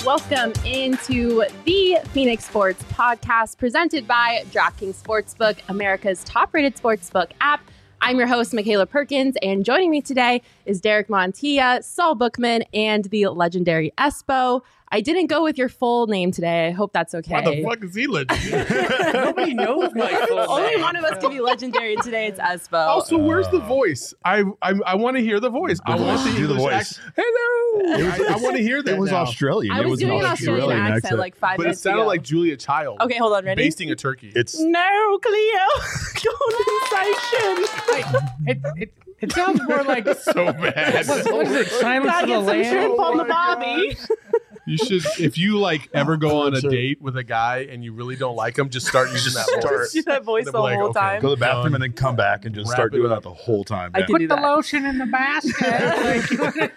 welcome into the Phoenix Sports Podcast presented by DraftKings Sportsbook, America's top-rated sportsbook app. I'm your host, Michaela Perkins, and joining me today is Derek Montilla, Saul Bookman, and the legendary Espo. I didn't go with your full name today. I hope that's okay. Why the fuck is he legendary? Nobody knows my full name. Only one of us can be legendary, and today it's Espo. Also, where's the voice? I want to hear the voice. I want to do the voice. Hello. I want to hear that. It was now. Australian. I was doing an Australian accent like 5 But it minutes sounded ago. like Julia Child. Okay, hold on, ready? Basting a turkey. It's No, Cleo. Condensation. It sounds more like so bad. what is it? Silence Gotta of the get some Lambs? shrimp on the bobby. You should, if you like ever go on a date with a guy and you really don't like him, just start using that voice. Start. Do that voice They'll the be like, whole okay, time. go to the bathroom and then come back and just Wrap start it doing up. that the whole time. I man. can do Put the that. lotion in the basket.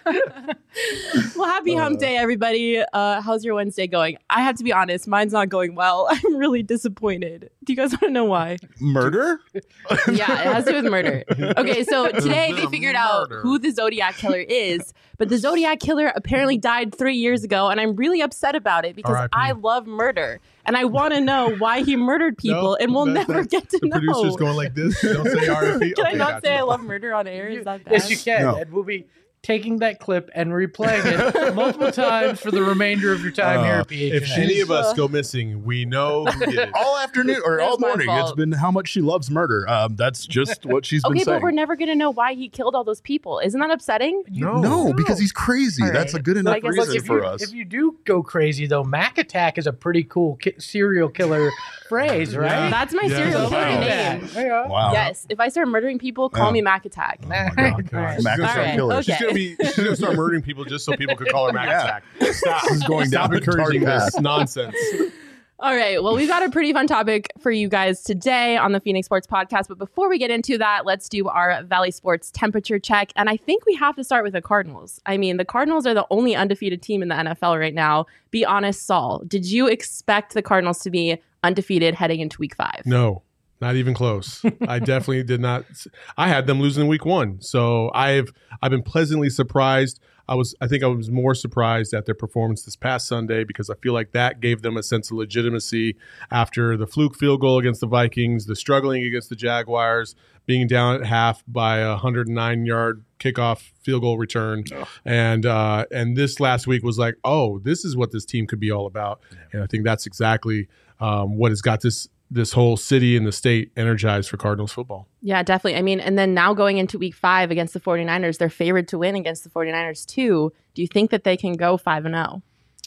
Well, happy hump day, everybody. How's your Wednesday going? I have to be honest, mine's not going well. I'm really disappointed. Do you guys want to know why? Murder? Yeah, it has to do with murder. Okay, so today There's they been a figured out murder. who the Zodiac Killer is, but the Zodiac Killer apparently died 3 years ago, and I'm really upset about it because R.I.P. I love murder, and I want to know why he murdered people, and we'll never get to The know. producer's going like this. Don't say RFP. Can I not say I love murder on air? Is that bad? Yes, you can. No. And we'll be taking that clip and replaying it multiple times for the remainder of your time here at PHNX. If any of us go missing, we know who did it. All afternoon or That's all my morning. fault. It's been how much she loves murder. That's just what she's been Okay, saying. but we're never going to know why he killed all those people. Isn't that upsetting? No, because he's crazy. All right. That's a good I enough guess reason if for you, us. If you do go crazy, though, Mac Attack is a pretty cool serial killer phrase, right? That's my Yeah. serial Wow. killer Yeah. name. Yeah. Wow. Yes, if I start murdering people, call Yeah. me Mac Attack. Oh my God. Mac She's gonna All start right, killer. okay. She's gonna start murdering people just so people could call her Mac Yeah. Attack. Stop. This is going Stop down a dark encouraging this path. nonsense. All right. Well, we've got a pretty fun topic for you guys today on the Phoenix Sports Podcast. But before we get into that, let's do our Valley Sports temperature check. And I think we have to start with the Cardinals. I mean, the Cardinals are the only undefeated team in the NFL right now. Be honest, Saul. Did you expect the Cardinals to be undefeated heading into week 5? No, not even close. I definitely did not. I had them losing in week 1. So I've been pleasantly surprised. I think I was more surprised at their performance this past Sunday because I feel like that gave them a sense of legitimacy after the fluke field goal against the Vikings, the struggling against the Jaguars, being down at half by a 109-yard kickoff field goal return. And this last week was like, oh, this is what this team could be all about. And I think that's exactly what has got this whole city and the state energized for Cardinals football. Yeah, definitely. I mean, and then now going into week 5 against the 49ers, they're favored to win against the 49ers too. Do you think that they can go 5-0?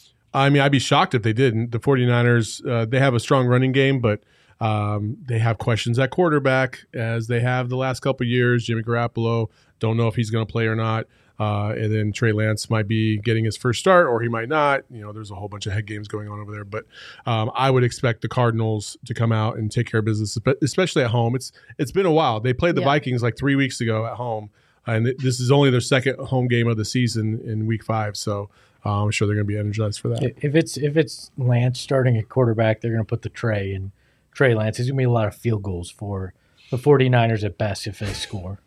I mean, I'd be shocked if they didn't. The 49ers, they have a strong running game, but they have questions at quarterback, as they have the last couple of years. Jimmy Garoppolo, don't know if he's going to play or not. And then Trey Lance might be getting his first start, or he might not. You know, there's a whole bunch of head games going on over there. But I would expect the Cardinals to come out and take care of business, especially at home. It's been a while. They played the Vikings like 3 weeks ago at home, and this is only their second home game of the season in week 5. So I'm sure they're going to be energized for that. If it's Lance starting at quarterback, they're going to put the Trey in Trey Lance. There's going to be a lot of field goals for the 49ers at best if they score.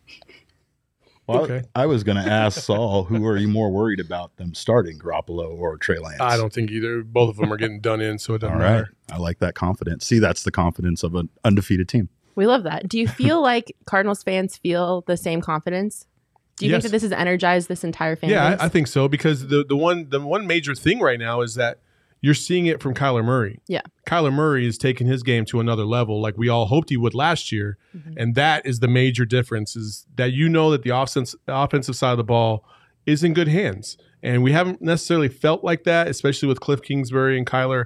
Well, Okay. I was going to ask Saul, who are you more worried about, them starting, Garoppolo or Trey Lance? I don't think either. Both of them are getting done in, so it doesn't All right. matter. I like that confidence. See, that's the confidence of an undefeated team. We love that. Do you feel like Cardinals fans feel the same confidence? Do you Yes. think that this has energized this entire fan Yeah, base? I think so, because the one major thing right now is that you're seeing it from Kyler Murray. Yeah. Kyler Murray is taking his game to another level, like we all hoped he would last year, Mm-hmm. and that is the major difference. Is that you know that the offensive side of the ball is in good hands, and we haven't necessarily felt like that, especially with Cliff Kingsbury and Kyler,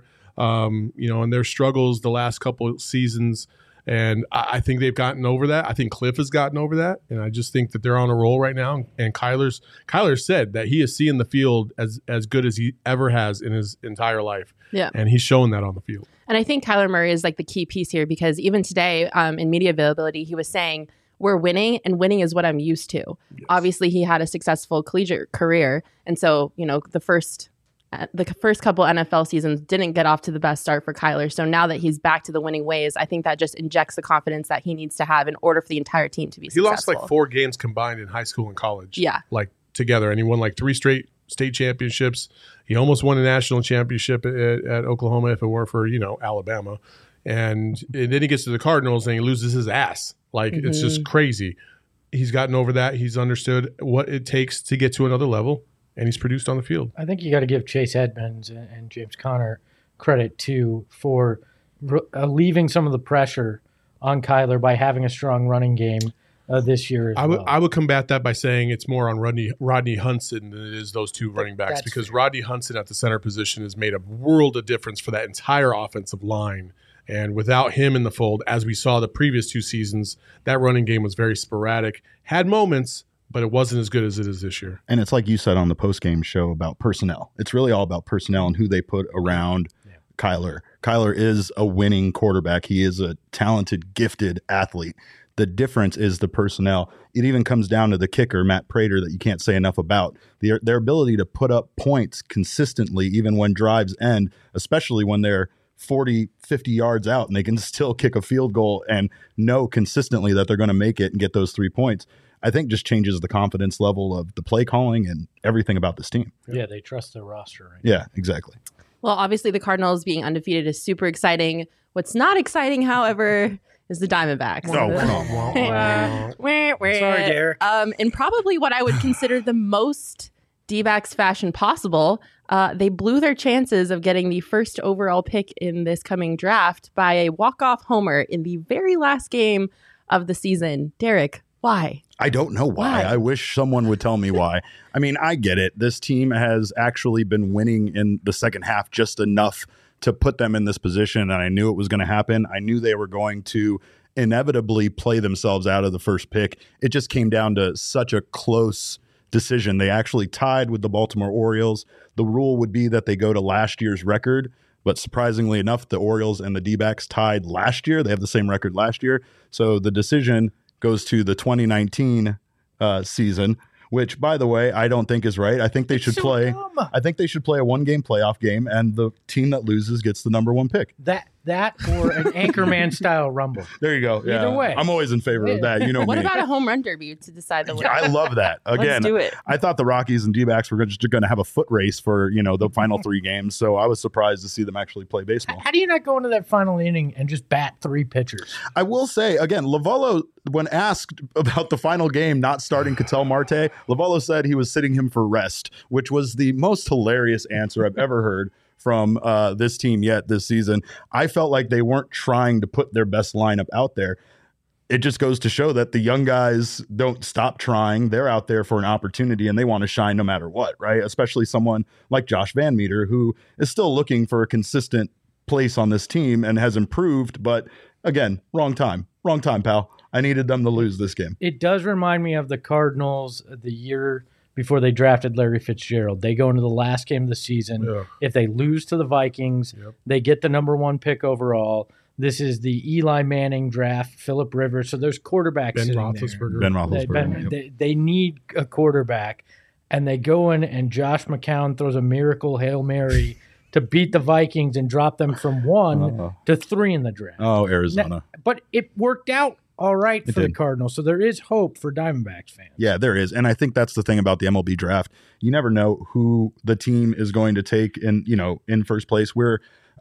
and their struggles the last couple of seasons. And I think they've gotten over that. I think Cliff has gotten over that. And I just think that they're on a roll right now. And Kyler said that he is seeing the field as good as he ever has in his entire life. Yeah. And he's showing that on the field. And I think Kyler Murray is like the key piece here, because even today in media availability, he was saying, we're winning, and winning is what I'm used to. Yes. Obviously, he had a successful collegiate career. And so, the first couple NFL seasons didn't get off to the best start for Kyler. So now that he's back to the winning ways, I think that just injects the confidence that he needs to have in order for the entire team to be successful. He lost like 4 games combined in high school and college. Yeah. Like together. And he won like 3 straight state championships. He almost won a national championship at Oklahoma if it weren't for, Alabama. And then he gets to the Cardinals and he loses his ass. Like, it's just crazy. He's gotten over that. He's understood what it takes to get to another level, and he's produced on the field. I think you got to give Chase Edmonds and James Conner credit, too, for alleviating some of the pressure on Kyler by having a strong running game this year as well. I would combat that by saying it's more on Rodney Hudson than it is those two running backs, because Rodney Hudson at the center position has made a world of difference for that entire offensive line. And without him in the fold, as we saw the previous 2 seasons, that running game was very sporadic, had moments, but it wasn't as good as it is this year. And it's like you said on the post-game show about personnel. It's really all about personnel and who they put around Kyler. Kyler is a winning quarterback. He is a talented, gifted athlete. The difference is the personnel. It even comes down to the kicker, Matt Prater, that you can't say enough about. Their ability to put up points consistently, even when drives end, especially when they're 40, 50 yards out and they can still kick a field goal and know consistently that they're going to make it and get those 3 points, I think just changes the confidence level of the play calling and everything about this team. Yeah, they trust their roster. Right? Yeah, exactly. Well, obviously the Cardinals being undefeated is super exciting. What's not exciting, however, is the Diamondbacks. Sorry, Derek. And probably what I would consider the most D-backs fashion possible. They blew their chances of getting the first overall pick in this coming draft by a walk-off homer in the very last game of the season. Derek, why? I don't know why. I wish someone would tell me why. I mean, I get it. This team has actually been winning in the second half just enough to put them in this position, and I knew it was going to happen. I knew they were going to inevitably play themselves out of the first pick. It just came down to such a close decision. They actually tied with the Baltimore Orioles. The rule would be that they go to last year's record, but surprisingly enough, the Orioles and the D-backs tied last year. They have the same record last year. So the decision goes to the 2019 season, which, by the way, I don't think is right. I think they should play. I think they should play a 1-game playoff game, and the team that loses gets the number 1 pick. That or an Anchorman style rumble. There you go. Either way, I'm always in favor of that. You know What me. about a home run derby to decide the winner? I love that. Again, Let's do it. I thought the Rockies and D-backs were just going to have a foot race for the final 3 games. So I was surprised to see them actually play baseball. How do you not go into that final inning and just bat 3 pitchers? I will say again, Lovallo, when asked about the final game not starting Ketel Marte, Lovallo said he was sitting him for rest, which was the most hilarious answer I've ever heard from this team yet this season. I felt like they weren't trying to put their best lineup out there. It just goes to show that the young guys don't stop trying. They're out there for an opportunity and they want to shine no matter what, right? Especially someone like Josh Van Meter, who is still looking for a consistent place on this team and has improved. But again, wrong time, pal. I needed them to lose this game. It does remind me of the Cardinals the year before they drafted Larry Fitzgerald. They go into the last game of the season. Yeah. If they lose to the Vikings, they get the number 1 pick overall. This is the Eli Manning draft, Phillip Rivers. So there's quarterbacks Ben sitting Roethlisberger. Ben Roethlisberger. They need a quarterback, and they go in, and Josh McCown throws a miracle Hail Mary to beat the Vikings and drop them from 1 to 3 in the draft. Oh, Arizona. But it worked out all right for the Cardinals. So there is hope for Diamondbacks fans. Yeah, there is. And I think that's the thing about the MLB draft. You never know who the team is going to take in first place. We're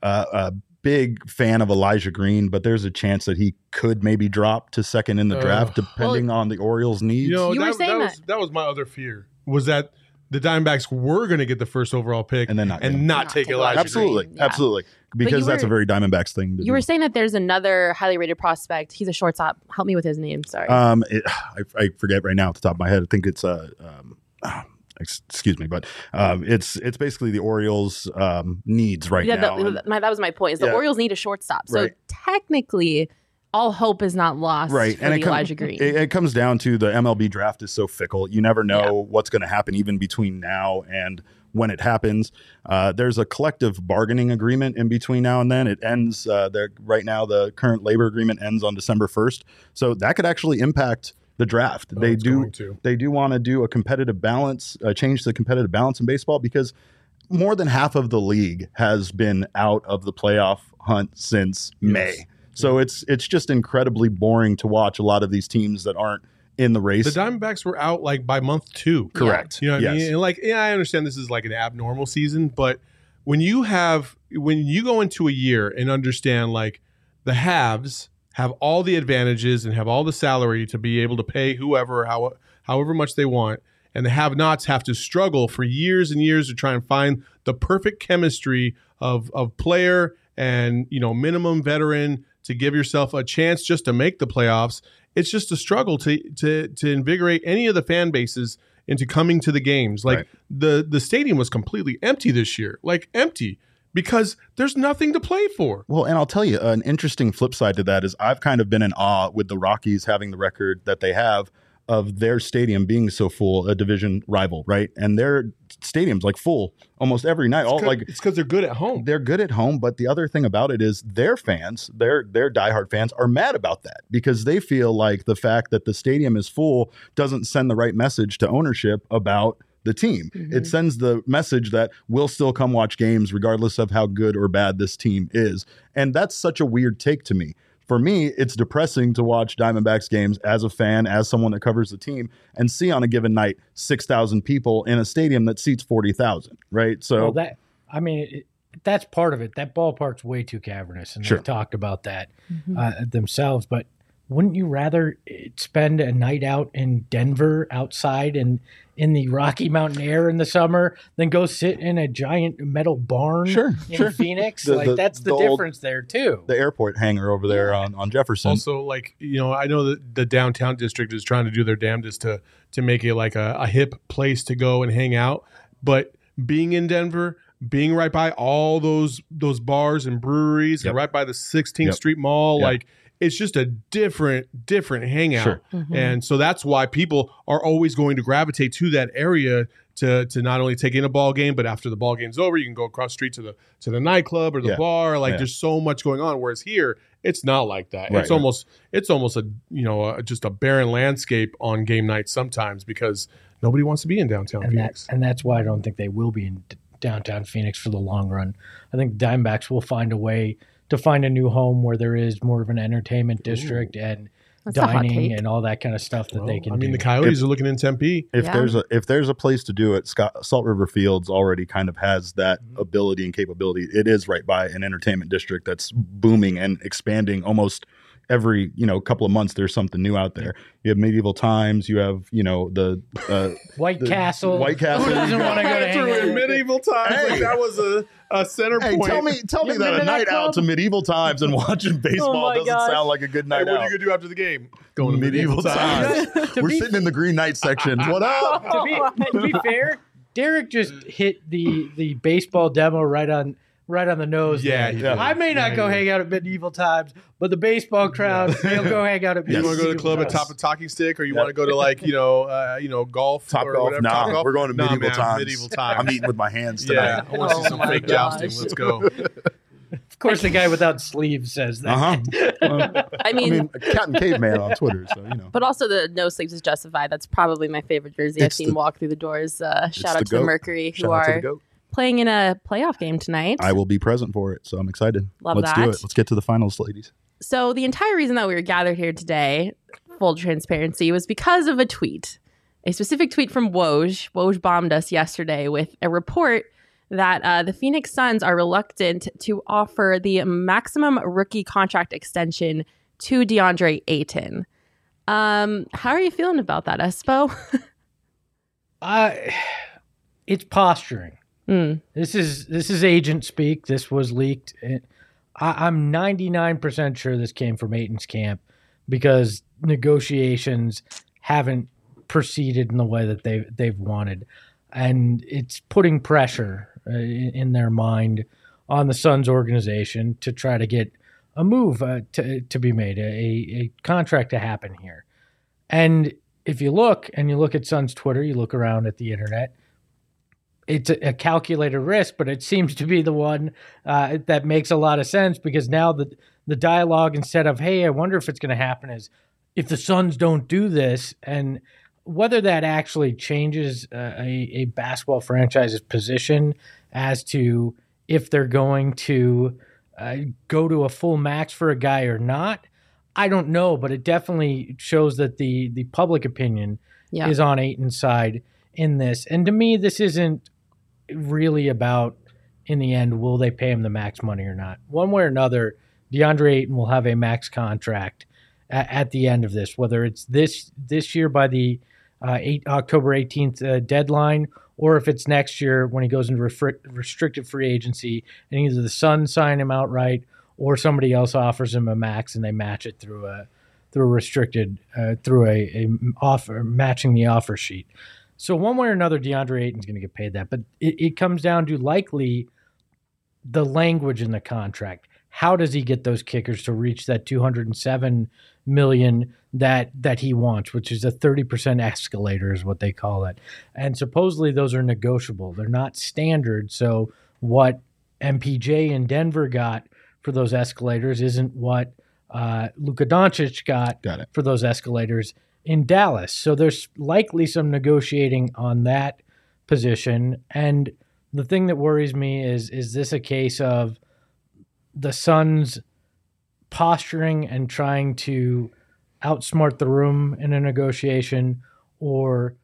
a big fan of Elijah Green, but there's a chance that he could maybe drop to second in the draft depending on the Orioles' needs. That was my other fear, was that the Diamondbacks were going to get the first overall pick and not take Elijah Green. Absolutely. Because that's a very Diamondbacks thing. You were saying that there's another highly rated prospect. He's a shortstop. Help me with his name. Sorry. I forget right now off the top of my head. I think it's excuse me, but it's basically the Orioles' needs right now. That was my point. Is the Orioles need a shortstop. So technically, all hope is not lost for Elijah Green. It comes down to the MLB draft is so fickle. You never know what's going to happen even between now and when it happens. There's a collective bargaining agreement in between now and then. It ends right now. The current labor agreement ends on December 1st. So that could actually impact the draft. They do want to do a competitive balance, change the competitive balance in baseball, because more than half of the league has been out of the playoff hunt since May. So it's just incredibly boring to watch a lot of these teams that aren't in the race. The Diamondbacks were out like by month 2. Correct. You know what I Yes. mean? And like, yeah, I understand this is like an abnormal season, but when you go into a year and understand like the haves have all the advantages and have all the salary to be able to pay whoever, however much they want, and the have-nots have to struggle for years and years to try and find the perfect chemistry of player and, you know, minimum veteran to give yourself a chance just to make the playoffs. It's just a struggle to invigorate any of the fan bases into coming to the games. Like the stadium was completely empty this year, like empty, because there's nothing to play for. Well, and I'll tell you, an interesting flip side to that is I've kind of been in awe with the Rockies having the record that they have of their stadium being so full, a division rival, right? And their stadium's like full almost every night. It's because they're good at home. They're good at home, but the other thing about it is their fans, their diehard fans, are mad about that because they feel like the fact that the stadium is full doesn't send the right message to ownership about the team. Mm-hmm. It sends the message that we'll still come watch games regardless of how good or bad this team is. And that's such a weird take to me. For me, it's depressing to watch Diamondbacks games as a fan, as someone that covers the team, and see on a given night 6,000 people in a stadium that seats 40,000, right? So that's part of it. That ballpark's way too cavernous, and Sure. they've talked about that themselves. But wouldn't you rather spend a night out in Denver outside and in the Rocky Mountain air in the summer than go sit in a giant metal barn in Phoenix? That's the difference there too. The airport hangar over there on Jefferson. Also, like, you know, I know that the downtown district is trying to do their damnedest to make it like a hip place to go and hang out. But being in Denver, being right by all those bars and breweries and right by the 16th Street Mall, like, it's just a different hangout. Sure. Mm-hmm. And so that's why people are always going to gravitate to that area to not only take in a ball game, but after the ball game's over, you can go across the street to the nightclub or the bar. Like there's so much going on. Whereas here, it's not like that. Right, It's almost a, you know, just a barren landscape on game night sometimes because nobody wants to be in downtown Phoenix. And that's why I don't think they will be in downtown Phoenix for the long run. I think the Diamondbacks will find a way to find a new home where there is more of an entertainment district and That's a hot dining take. and all that kind of stuff that they can do. I mean, the Coyotes are looking in Tempe. If there's a place to do it, Salt River Fields already kind of has that ability and capability. It is right by an entertainment district that's booming and expanding almost every couple of months. There's something new out there. You have Medieval Times. You have the White Castle. White Castle. Who doesn't want to go to hang out? Medieval Times. Hey. Like that was a center Hey, point. tell me You that been a to that night club? out to Medieval Times and watching baseball my doesn't gosh. sound like a good Hey, night what are out. you gonna do after the game? Going to Medieval Times. To We're be- sitting in the green night section. What up? to be fair, Derek just hit the baseball demo right on the nose. Yeah, there. he did. I may not go hang out at Medieval Times, but the baseball crowd, they'll go hang out at You Medieval want to go to the club at Times. Top of Talking Stick, or you want to go to like golf, Top or golf? whatever? Nah, Top golf? we're going to Nah, Medieval man, Times. Medieval Times. I'm eating with my hands Yeah, tonight. I want to see some my fake gosh. jousting. Let's go. Of course, the guy without sleeves says that. I mean, Cat and Caveman on Twitter. So but also the no sleeves is justified. That's probably my favorite jersey I've It's seen the- walk through the doors. Shout out the to the GOAT. Mercury, who Shout out to the are GOAT. playing in a playoff game tonight. I will be present for it, so I'm excited. Love Let's that. do it. Let's get to the finals, ladies. So the entire reason that we were gathered here today, full transparency, was because of a tweet, a specific tweet from Woj. Woj bombed us yesterday with a report that the Phoenix Suns are reluctant to offer the maximum rookie contract extension to DeAndre Ayton. How are you feeling about that, Espo? It's posturing. Mm. This is agent speak. This was leaked. I'm 99% sure this came from Ayton's camp because negotiations haven't proceeded in the way that they've wanted, and it's putting pressure in their mind on the Suns organization to try to get a move to be made, a contract to happen here. And if you look at Suns Twitter, you look around at the internet, it's a calculated risk, but it seems to be the one that makes a lot of sense because now the dialogue, instead of, hey, I wonder if it's going to happen, is if the Suns don't do this, and whether that actually changes a basketball franchise's position as to if they're going to go to a full max for a guy or not, I don't know, but it definitely shows that the public opinion is on Ayton's side in this. And to me, this isn't really about, in the end, will they pay him the max money or not? One way or another, DeAndre Ayton will have a max contract at the end of this, whether it's this year by the October 18th deadline, or if it's next year when he goes into restricted free agency and either the Suns sign him outright or somebody else offers him a max and they match it through a restricted through a offer, matching the offer sheet. So one way or another, DeAndre Ayton's going to get paid that, but it comes down to likely the language in the contract. How does he get those kickers to reach that $207 million that he wants, which is a 30% escalator is what they call it. And supposedly those are negotiable. They're not standard. So what MPJ in Denver got for those escalators isn't what Luka Doncic got for those escalators in Dallas. So there's likely some negotiating on that position. And the thing that worries me is this a case of the Suns posturing and trying to outsmart the room in a negotiation, or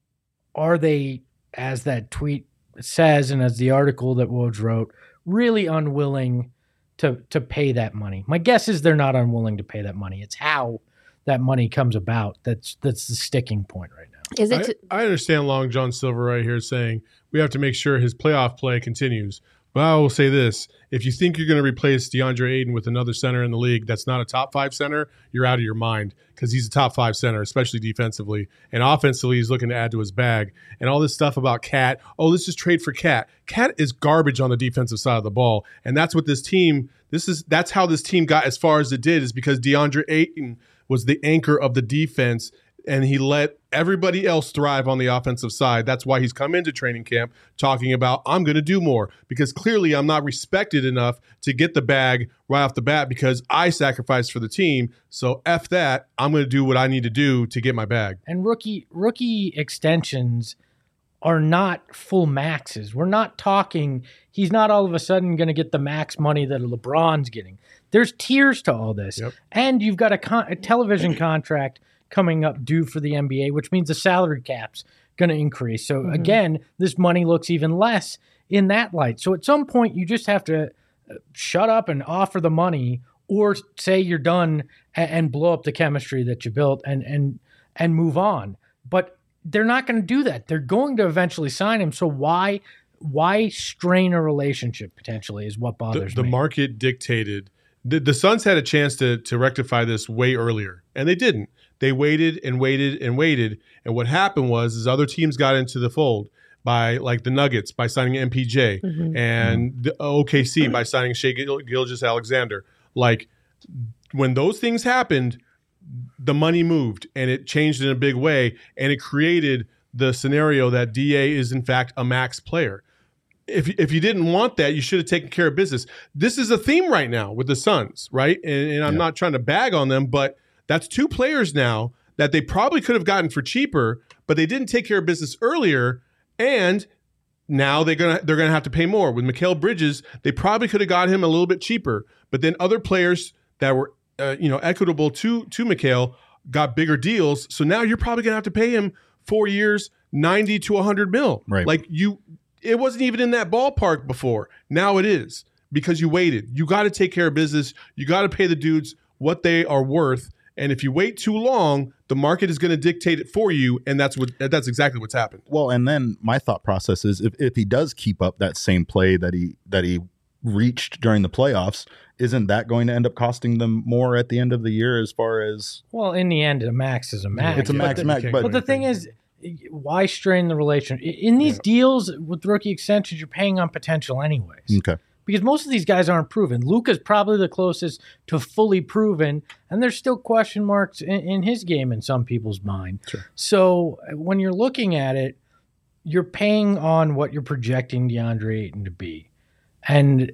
are they, as that tweet says and as the article that Woj wrote, really unwilling to pay that money? My guess is they're not unwilling to pay that money. It's how that money comes about that's the sticking point right now. Is it? I understand Long John Silver right here saying we have to make sure his playoff play continues. But I will say this. If you think you're going to replace DeAndre Ayton with another center in the league that's not a top 5 center, you're out of your mind, because he's a top 5 center, especially defensively. And offensively, he's looking to add to his bag. And all this stuff about Cat, let's just trade for Cat. Cat is garbage on the defensive side of the ball. And that's what that's how this team got as far as it did, is because DeAndre Ayton was the anchor of the defense, and he let everybody else thrive on the offensive side. That's why he's come into training camp talking about, I'm going to do more, because clearly I'm not respected enough to get the bag right off the bat because I sacrificed for the team. So F that. I'm going to do what I need to do to get my bag. And rookie extensions are not full maxes. We're not talking, he's not all of a sudden going to get the max money that LeBron's getting. There's tiers to all this. Yep. And you've got a television contract coming up due for the NBA, which means the salary cap's going to increase. So again, this money looks even less in that light. So at some point, you just have to shut up and offer the money, or say you're done and blow up the chemistry that you built and move on. But they're not going to do that. They're going to eventually sign him. So why strain a relationship potentially is what bothers me. The market dictated. The Suns had a chance to rectify this way earlier, and they didn't. They waited and waited and waited, and what happened was other teams got into the fold by, like the Nuggets, by signing MPJ, and the OKC by signing Shai Gilgeous-Alexander. Like, when those things happened, the money moved, and it changed in a big way, and it created the scenario that DA is, in fact, a max player. If you didn't want that, you should have taken care of business. This is a theme right now with the Suns, right? And I'm not trying to bag on them, but that's 2 players now that they probably could have gotten for cheaper, but they didn't take care of business earlier, and now they're gonna have to pay more. With Mikal Bridges, they probably could have got him a little bit cheaper, but then other players that were equitable to Mikal got bigger deals. So now you're probably gonna have to pay him 4 years, 90 to 100 mil. Right. Like it wasn't even in that ballpark before. Now it is, because you waited. You got to take care of business. You got to pay the dudes what they are worth. And if you wait too long, the market is going to dictate it for you, and that's exactly what's happened. Well, and then my thought process is if he does keep up that same play that he reached during the playoffs, isn't that going to end up costing them more at the end of the year as far as? Well, in the end, a max is a max. It's a max. But the thing is, why strain the relationship? In these deals with rookie extensions, you're paying on potential anyways. Okay. Because most of these guys aren't proven. Luka's probably the closest to fully proven, and there's still question marks in his game in some people's mind. Sure. So when you're looking at it, you're paying on what you're projecting DeAndre Ayton to be. And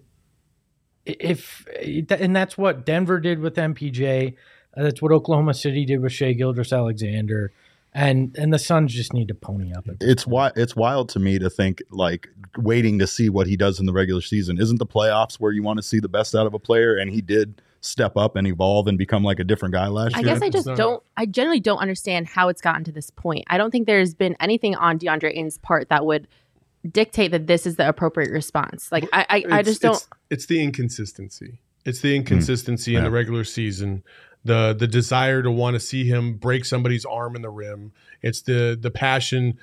that's what Denver did with MPJ. That's what Oklahoma City did with Shai Gilgeous-Alexander. And the Suns just need to pony up. It's wild to me to think, like, waiting to see what he does in the regular season. Isn't the playoffs where you want to see the best out of a player? And he did step up and evolve and become like a different guy last I year? guess I generally don't understand how it's gotten to this point. I don't think there's been anything on DeAndre Ayton's part that would dictate that this is the appropriate response. Like, I just don't. It's the inconsistency. It's the inconsistency in the regular season. The desire to want to see him break somebody's arm in the rim. It's the passion.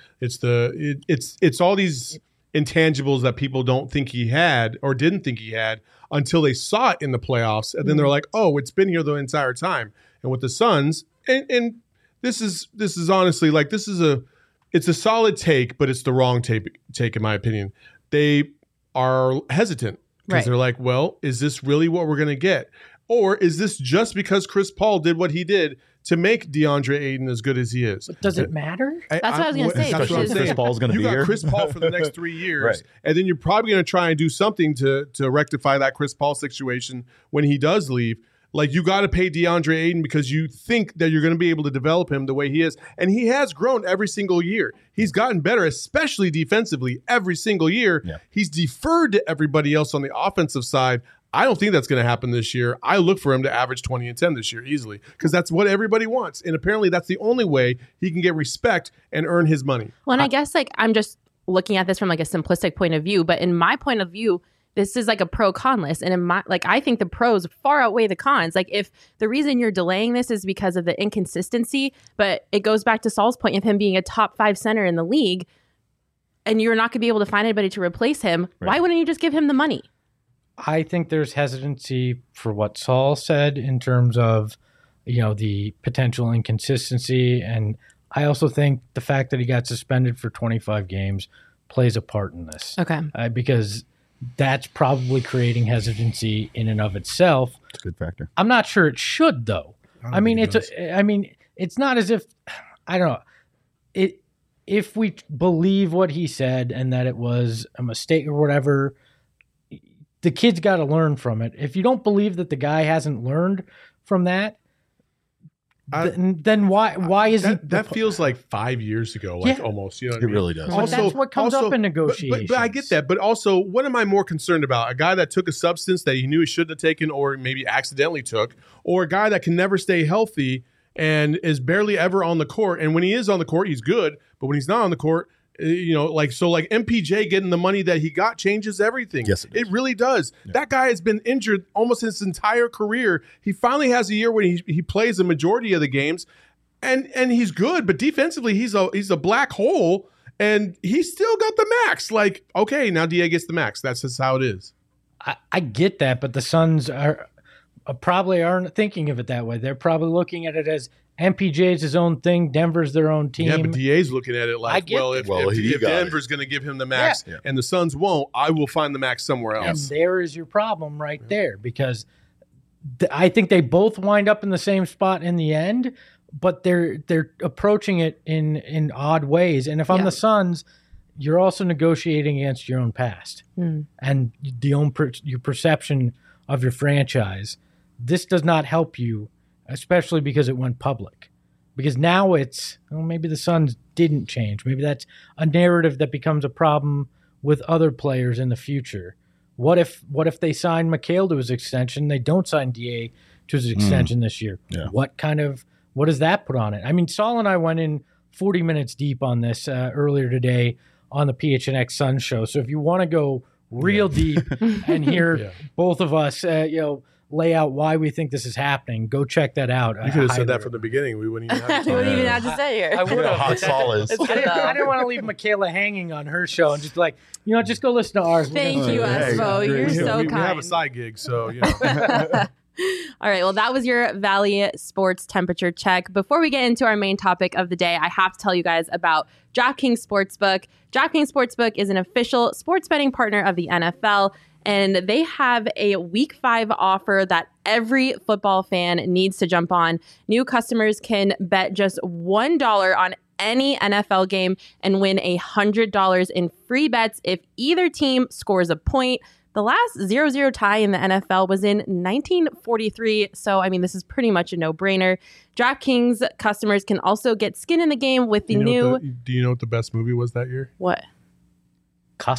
It's all these intangibles that people don't think he had or didn't think he had until they saw it in the playoffs, and then they're like, "Oh, it's been here the entire time." And with the Suns, and this is honestly like it's a solid take, but it's the wrong take in my opinion. They are hesitant because they're like, "Well, is this really what we're going to get?" Or is this just because Chris Paul did what he did to make DeAndre Ayton as good as he is? But does it matter? That's what I was going to say. Especially if Chris Paul's going to be here. You got Chris Paul for the next 3 years, Right. and then you're probably going to try and do something to rectify that Chris Paul situation when he does leave. Like, you got to pay DeAndre Ayton because you think that you're going to be able to develop him the way he is. And he has grown every single year. He's gotten better, especially defensively, every single year. Yeah. He's deferred to everybody else on the offensive side. I don't think that's going to happen this year. I look for him to average 20 and 10 this year easily because that's what everybody wants. And apparently that's the only way he can get respect and earn his money. Well, and I guess like I'm just looking at this from like a simplistic point of view, but in my point of view, this is like a pro-con list. And in my I think the pros far outweigh the cons. Like, if the reason you're delaying this is because of the inconsistency, but it goes back to Saul's point of him being a top 5 center in the league, and you're not going to be able to find anybody to replace him, why wouldn't you just give him the money? I think there's hesitancy for what Saul said in terms of, the potential inconsistency. And I also think the fact that he got suspended for 25 games plays a part in this. Okay. Because that's probably creating hesitancy in and of itself. It's a good factor. I'm not sure it should, though. It's not as if, I don't know. If we believe what he said and that it was a mistake or whatever, the kid's got to learn from it. If you don't believe that the guy hasn't learned from that, then why is he? That feels like 5 years ago, almost. You know what I mean? Really does. But that's what comes up in negotiations. But I get that. But also, what am I more concerned about? A guy that took a substance that he knew he shouldn't have taken or maybe accidentally took, or a guy that can never stay healthy and is barely ever on the court. And when he is on the court, he's good. But when he's not on the court, MPJ getting the money that he got changes everything. Yes, it really does. Yeah. That guy has been injured almost his entire career. He finally has a year where he plays the majority of the games, and he's good. But defensively, he's a black hole, and he's still got the max. Like, okay, now DA gets the max. That's just how it is. I get that, but the Suns probably aren't thinking of it that way. They're probably looking at it as MPJ's his own thing. Denver's their own team. Yeah, but DA's looking at it like, if Denver's going to give him the max and the Suns won't, I will find the max somewhere else. And there is your problem right there, because I think they both wind up in the same spot in the end, but they're approaching it in odd ways. And if I'm the Suns, you're also negotiating against your own past and your perception of your franchise. This does not help you, especially because it went public. Because now it's, maybe the Suns didn't change. Maybe that's a narrative that becomes a problem with other players in the future. What if they sign Mikal to his extension? They don't sign DA to his extension this year. Yeah. What does that put on it? I mean, Saul and I went in 40 minutes deep on this earlier today on the PHNX Sun show. So if you want to go real deep and hear both of us, lay out why we think this is happening, go check that out. You could have said that from the beginning. We wouldn't even have to, have to say here. I would have. Hot Saul is. I didn't want to leave Michaela hanging on her show and just like, just go listen to ours. Thank you, Espo. You're so kind. We have a side gig, so All right, well, that was your Valley Sports temperature check. Before we get into our main topic of the day, I have to tell you guys about DraftKings Sportsbook. DraftKings Sportsbook is an official sports betting partner of the NFL, and they have a Week 5 offer that every football fan needs to jump on. New customers can bet just $1 on any NFL game and win $100 in free bets if either team scores a point. The last 0-0 tie in the NFL was in 1943, so this is pretty much a no-brainer. DraftKings customers can also get skin in the game with the new... Do you know what the best movie was that year? What?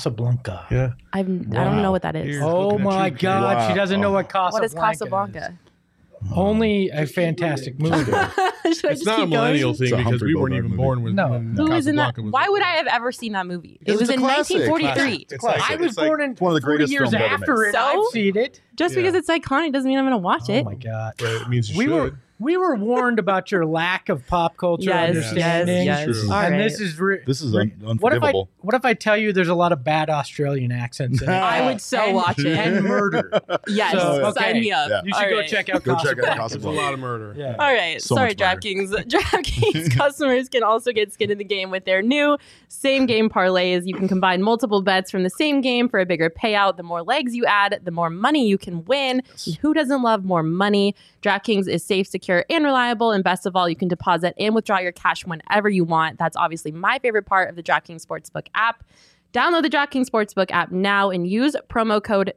Casablanca. Yeah. I don't know what that is. Oh my God, she doesn't know what Casablanca is. What is Casablanca? Only a fantastic movie. Should I It's just not a keep millennial going? thing It's a because we Humphrey weren't Bogart even movie. born when, No. when Who is in that? Casablanca was Why would made. I have ever seen that movie? It It's was a in classic. 1943. It's I like- was it's like- born in one of the 40 greatest years films ever after made. it. So? I've seen it. Just Yeah. because it's iconic doesn't mean I'm going to watch Oh it. my god. Right, it means you We should. were warned about your lack of pop culture Yes, understanding. yes, True. All And right. this is unforgivable. What if I tell you there's a lot of bad Australian accents in it? I would so And- watch it. and murder. Yes, So, sign okay. me up. Yeah. You should All go right. check out Go check out Casablanca. There's a Casablanca. lot of murder. Yeah. All right. So Sorry, much murder. DraftKings. DraftKings customers can also get skin in the game with their new same game parlays. You can combine multiple bets from the same game for a bigger payout. The more legs you add, the more money you can win. And who doesn't love more money? DraftKings is safe, secure, and reliable. And best of all, you can deposit and withdraw your cash whenever you want. That's obviously my favorite part of the DraftKings Sportsbook app. Download the DraftKings Sportsbook app now and use promo code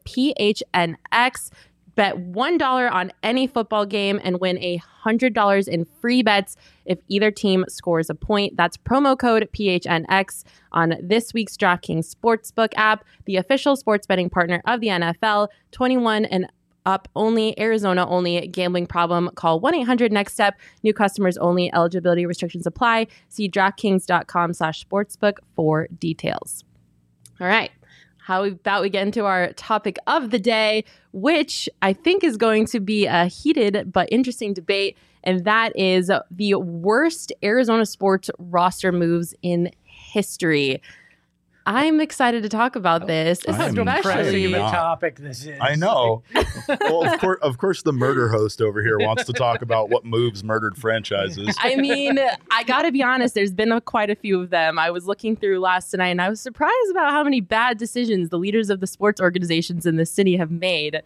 PHNX. Bet $1 on any football game and win $100 in free bets if either team scores a point. That's promo code PHNX on this week's DraftKings Sportsbook app, the official sports betting partner of the NFL. 21 and up only, Arizona only. Gambling problem? Call 1-800-NEXT-STEP. New customers only. Eligibility restrictions apply. See DraftKings.com/sportsbook for details. All right. How about we get into our topic of the day, which I think is going to be a heated but interesting debate, and that is the worst Arizona sports roster moves in history. I'm excited to talk about this, I am Depressing of a not. topic this is. I know. Well, of course, the murder host over here wants to talk about what moves murdered franchises. I mean, I got to be honest, there's been quite a few of them. I was looking through last night and I was surprised about how many bad decisions the leaders of the sports organizations in the city have made.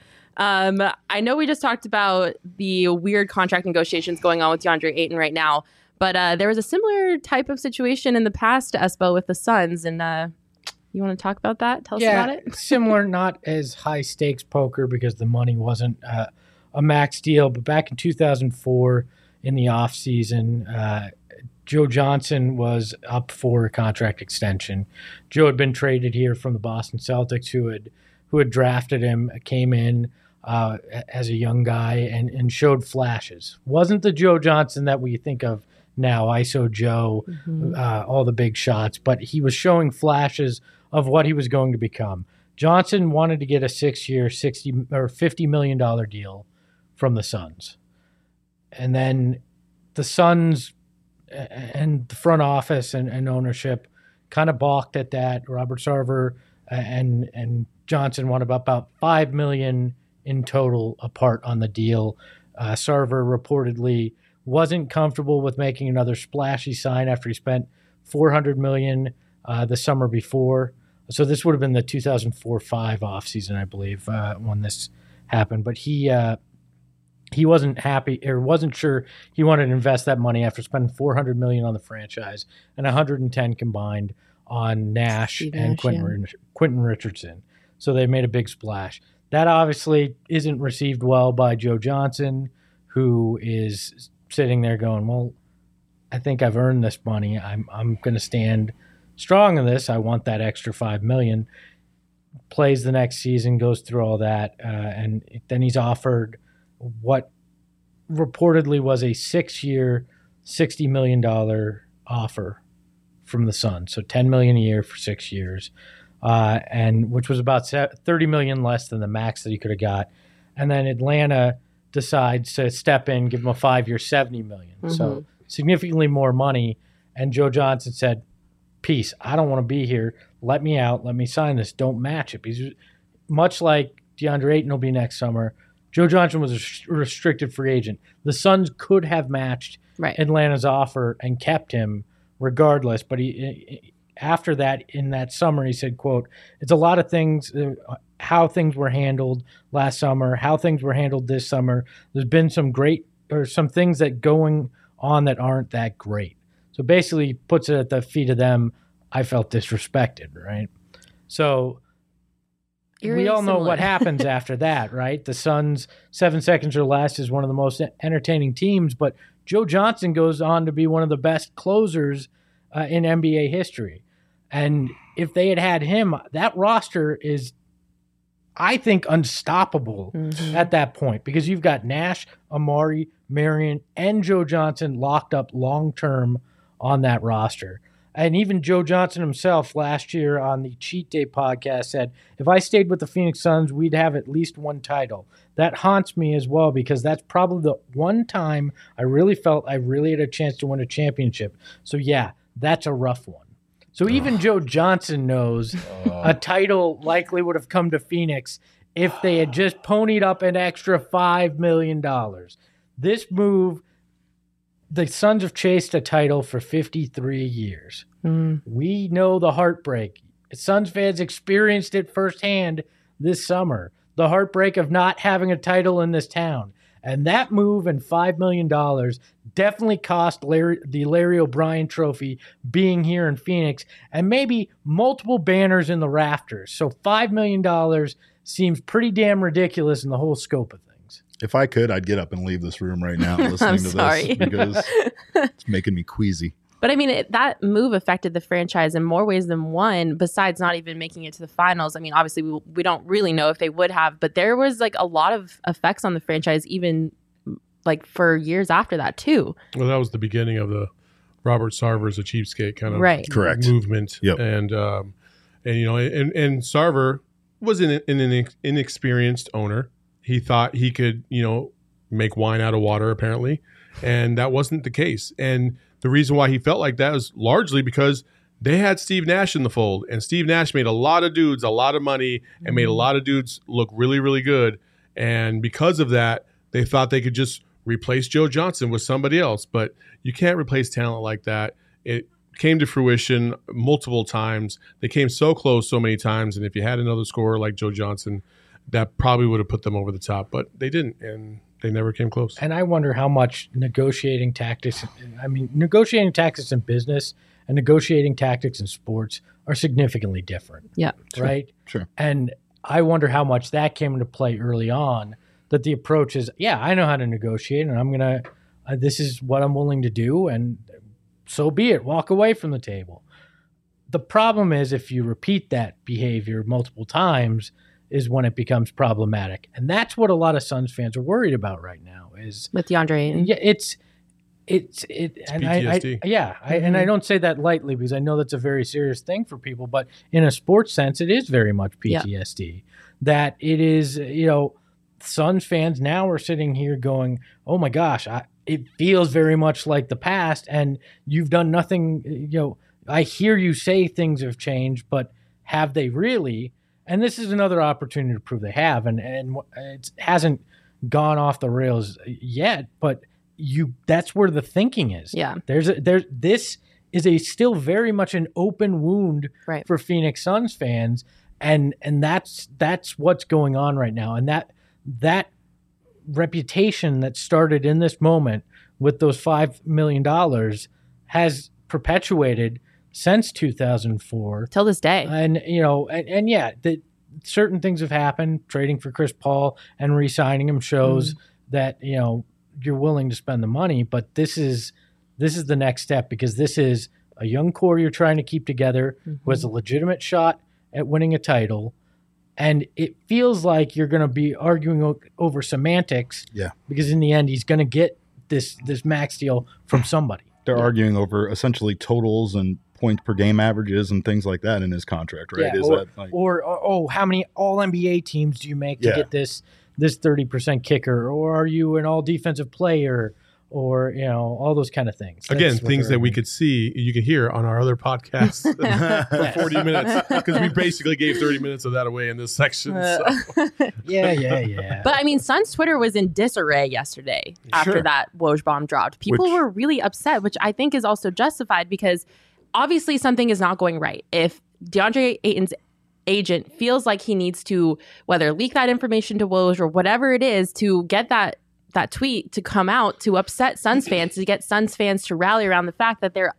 I know we just talked about the weird contract negotiations going on with DeAndre Ayton right now, but there was a similar type of situation in the past, Espo, with the Suns. And you want to talk about that? Tell us about it. Similar, not as high stakes poker because the money wasn't a max deal. But back in 2004, in the off season, Joe Johnson was up for a contract extension. Joe had been traded here from the Boston Celtics, who had drafted him, came in as a young guy and showed flashes. Wasn't the Joe Johnson that we think of now, ISO Joe, all the big shots, but he was showing flashes of what he was going to become. Johnson wanted to get a 6-year, $50 million deal from the Suns. And then the Suns and the front office and ownership kind of balked at that. Robert Sarver and Johnson wanted about $5 million in total apart on the deal. Sarver reportedly wasn't comfortable with making another splashy sign after he spent $400 million the summer before. So this would have been the 2004-05 offseason, I believe, when this happened. But he wasn't happy or wasn't sure he wanted to invest that money after spending $400 million on the franchise and $110 combined on Nash and Quentin Richardson. So they made a big splash. That obviously isn't received well by Joe Johnson, who is sitting there going, well, I think I've earned this money. I'm going to stand strong in this. I want that extra $5 million. Plays the next season, goes through all that, and then he's offered what reportedly was a 6-year, $60 million offer from the Suns. So $10 million a year for 6 years, and which was about $30 million less than the max that he could have got. And then Atlanta decides to step in, give him a 5-year, $70 million. So significantly more money. And Joe Johnson said, peace, I don't want to be here. Let me out. Let me sign this. Don't match it. He's much like DeAndre Ayton will be next summer. Joe Johnson was a restricted free agent. The Suns could have matched Atlanta's offer and kept him regardless. But he, after that, in that summer, he said, quote, it's a lot of things, how things were handled last summer, how things were handled this summer. There's been some things that going on that aren't that great. So basically puts it at the feet of them. I felt disrespected, right? So we all know what happens after that, right? The Suns, 7 seconds or less is one of the most entertaining teams, but Joe Johnson goes on to be one of the best closers in NBA history. And if they had him, that roster is I think, unstoppable at that point because you've got Nash, Amari, Marion, and Joe Johnson locked up long-term on that roster. And even Joe Johnson himself last year on the Cheat Day podcast said, if I stayed with the Phoenix Suns, we'd have at least one title. That haunts me as well because that's probably the one time I really felt I really had a chance to win a championship. So, yeah, that's a rough one. So even Joe Johnson knows a title likely would have come to Phoenix if they had just ponied up an extra $5 million. This move, the Suns have chased a title for 53 years. We know the heartbreak. Suns fans experienced it firsthand this summer. The heartbreak of not having a title in this town. And that move and $5 million definitely cost the Larry O'Brien Trophy being here in Phoenix and maybe multiple banners in the rafters. So $5 million seems pretty damn ridiculous in the whole scope of things. If I could, I'd get up and leave this room right now listening to this because it's making me queasy. But I mean, that move affected the franchise in more ways than one, besides not even making it to the finals. I mean, obviously, we don't really know if they would have, but there was like a lot of effects on the franchise, even like for years after that, too. Well, that was the beginning of the Robert Sarver's a cheapskate kind of Correct. movement. Yep. And you know, and Sarver was an inexperienced owner. He thought he could, you know, make wine out of water, apparently. And that wasn't the case. And the reason why he felt like that was largely because they had Steve Nash in the fold. And Steve Nash made a lot of dudes a lot of money and made a lot of dudes look really, really good. And because of that, they thought they could just replace Joe Johnson with somebody else. But you can't replace talent like that. It came to fruition multiple times. They came so close so many times. And if you had another scorer like Joe Johnson, that probably would have put them over the top. But they didn't. And they never came close. And I wonder how much negotiating tactics in business and negotiating tactics in sports are significantly different. Yeah. Right? Sure. And I wonder how much that came into play early on, that the approach is, yeah, I know how to negotiate and I'm going to, this is what I'm willing to do. And so be it. Walk away from the table. The problem is if you repeat that behavior multiple times, is when it becomes problematic. And that's what a lot of Suns fans are worried about right now is with DeAndre Ayton. Yeah, it's and PTSD. And I don't say that lightly because I know that's a very serious thing for people, but in a sports sense, it is very much PTSD. That it is, you know, Suns fans now are sitting here going, oh my gosh, it feels very much like the past and you've done nothing, you know, I hear you say things have changed, but have they really? And this is another opportunity to prove they have, and it hasn't gone off the rails yet. But that's where the thinking is. Yeah, this is still very much an open wound for Phoenix Suns fans, and that's what's going on right now. And that reputation that started in this moment with those $5 million has perpetuated since 2004 till this day. And you know, and yeah, certain things have happened. Trading for Chris Paul and re-signing him shows that, you know, you're willing to spend the money, but this is the next step because this is a young core you're trying to keep together who has a legitimate shot at winning a title. And it feels like you're going to be arguing over semantics. Yeah. Because in the end, he's going to get this max deal from somebody. They're arguing over essentially totals and points per game averages and things like that in his contract, right? Yeah, or how many all NBA teams do you make to get this 30% kicker? Or are you an all defensive player? Or, you know, all those kind of things. Again, things that we could see, you could hear on our other podcasts for 40 minutes because we basically gave 30 minutes of that away in this section. So. Yeah. But I mean, Suns Twitter was in disarray yesterday after that Woj bomb dropped. People were really upset, which I think is also justified because obviously something is not going right. If DeAndre Ayton's agent feels like he needs to whether leak that information to Woj or whatever it is to get that tweet to come out to upset Suns fans, to get Suns fans to rally around the fact that they're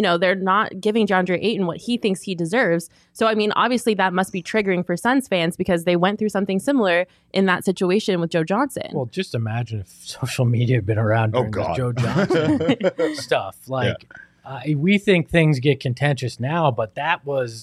not giving DeAndre Ayton what he thinks he deserves. So, I mean, obviously that must be triggering for Suns fans because they went through something similar in that situation with Joe Johnson. Well, just imagine if social media had been around during the Joe Johnson stuff. Like, we think things get contentious now, but that was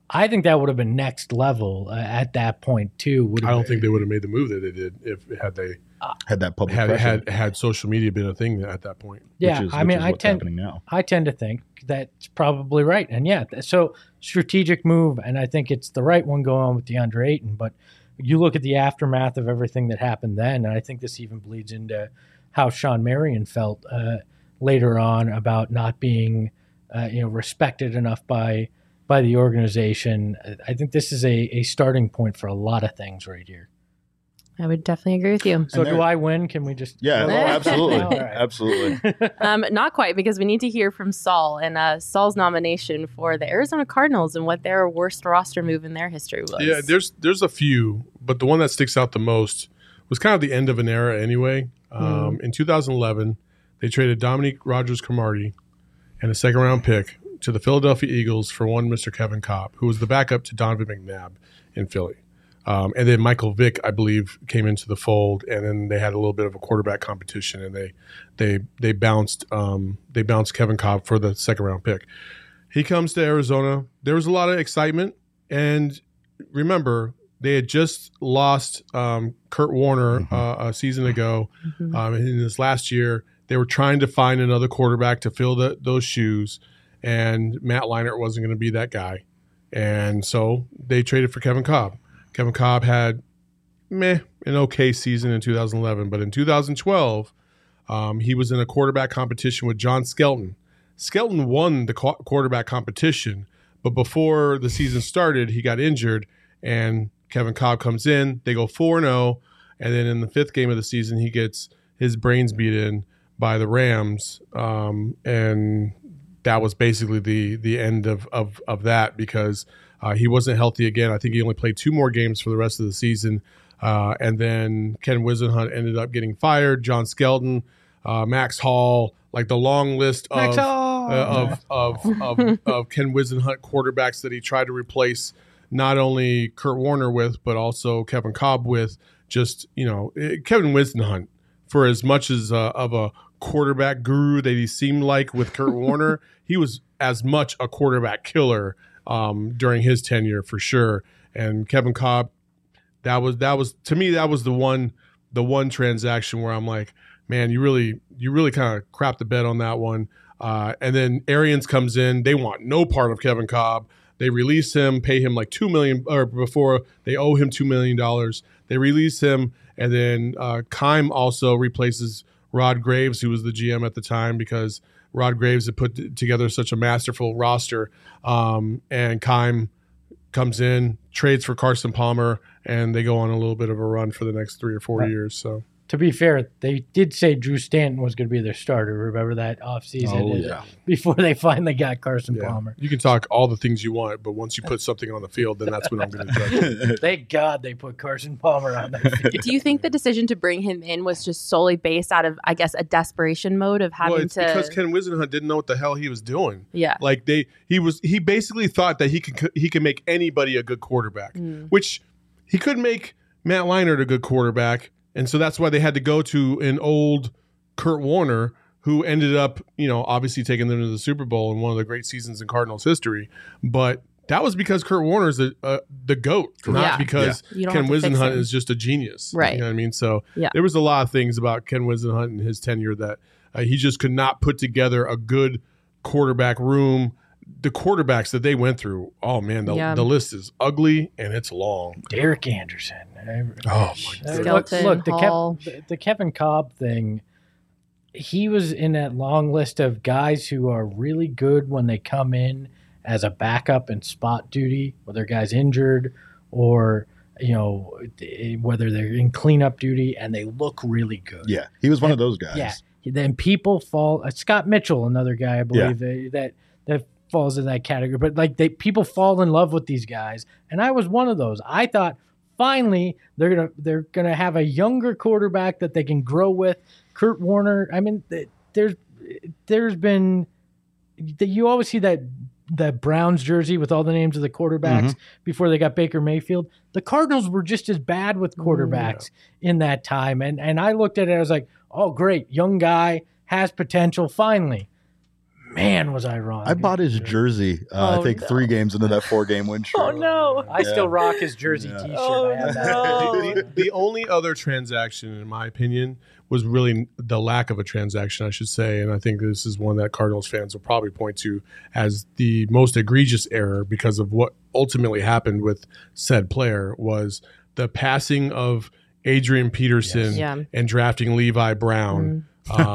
I think that would have been next level at that point too. I don't think they would have made the move that they did if had they had that public pressure. had social media been a thing at that point. Yeah, which is what's happening now. I tend to think that's probably right, and so strategic move, and I think it's the right one going on with DeAndre Ayton. But you look at the aftermath of everything that happened then, and I think this even bleeds into how Sean Marion felt later on about not being respected enough by the organization. I think this is a starting point for a lot of things right here. I would definitely agree with you. So do I win? Can we just... Yeah, absolutely. All right. Absolutely. Not quite, because we need to hear from Saul and Saul's nomination for the Arizona Cardinals and what their worst roster move in their history was. Yeah, there's a few, but the one that sticks out the most was kind of the end of an era anyway. In 2011, they traded Dominique Rodgers-Cromartie and a second-round pick to the Philadelphia Eagles for one Mr. Kevin Kolb, who was the backup to Donovan McNabb in Philly. And then Michael Vick, I believe, came into the fold, and then they had a little bit of a quarterback competition, and they bounced Kevin Kolb for the second-round pick. He comes to Arizona. There was a lot of excitement, and remember, they had just lost Kurt Warner a season ago. In this last year, they were trying to find another quarterback to fill those shoes, and Matt Leinart wasn't going to be that guy. And so they traded for Kevin Kolb. Kevin Kolb had an okay season in 2011, but in 2012, he was in a quarterback competition with John Skelton. Skelton won the quarterback competition, but before the season started, he got injured, and Kevin Kolb comes in. They go 4-0, and then in the fifth game of the season, he gets his brains beat in by the Rams, and that was basically the end of that because he wasn't healthy again. I think he only played 2 more games for the rest of the season, and then Ken Whisenhunt ended up getting fired. John Skelton, Max Hall, like the long list of Ken Whisenhunt quarterbacks that he tried to replace not only Kurt Warner with, but also Kevin Kolb with. Just Kevin Whisenhunt, for as much as of a quarterback guru that he seemed like with Kurt Warner, he was as much a quarterback killer during his tenure for sure. And Kevin Kolb, that was to me, that was the one transaction where I'm like, man, you really kind of crapped the bed on that one. And then Arians comes in. They want no part of Kevin Kolb. They release him, pay him like $2 million, or before they owe him $2 million. They release him, and then Keim also replaces Rod Graves, who was the GM at the time, because Rod Graves had put together such a masterful roster. And Keim comes in, trades for Carson Palmer, and they go on a little bit of a run for the next 3 or 4 years. So, to be fair, they did say Drew Stanton was going to be their starter. Remember that offseason? Before they finally got Carson Palmer. You can talk all the things you want, but once you put something on the field, then that's when I'm going to judge it. Thank God they put Carson Palmer on the field. Do you think the decision to bring him in was just solely based out of, I guess, a desperation mode of having because Ken Whisenhunt didn't know what the hell he was doing. Yeah, like he basically thought that he could make anybody a good quarterback, which he could make Matt Leinart a good quarterback. And so that's why they had to go to an old Kurt Warner, who ended up, obviously taking them to the Super Bowl in one of the great seasons in Cardinals history. But that was because Kurt Warner's the GOAT, not because Ken Whisenhunt is just a genius. Right. You know what I mean? So there was a lot of things about Ken Whisenhunt and his tenure that he just could not put together a good quarterback room. The quarterbacks that they went through, oh man, the list is ugly and it's long. Derek Anderson. Oh my God. Look, the Kevin Kolb thing, he was in that long list of guys who are really good when they come in as a backup and spot duty, whether a guy's injured or whether they're in cleanup duty, and they look really good. Yeah, he was one of those guys. Yeah, then people fall. Scott Mitchell, another guy I believe that falls in that category. But people fall in love with these guys, and I was one of those. I thought finally they're gonna have a younger quarterback that they can grow with. Kurt Warner. I mean, there's been you always see that Browns jersey with all the names of the quarterbacks before they got Baker Mayfield. The Cardinals were just as bad with quarterbacks in that time, and I looked at it. I was like, oh great, young guy has potential. Finally. Man, was I wrong. I bought his jersey, I think 3 games into that 4-game win streak. Oh no! I still rock his jersey T-shirt. Oh, I have that. no. The only other transaction, in my opinion, was really the lack of a transaction, I should say. And I think this is one that Cardinals fans will probably point to as the most egregious error because of what ultimately happened with said player was the passing of Adrian Peterson and drafting Levi Brown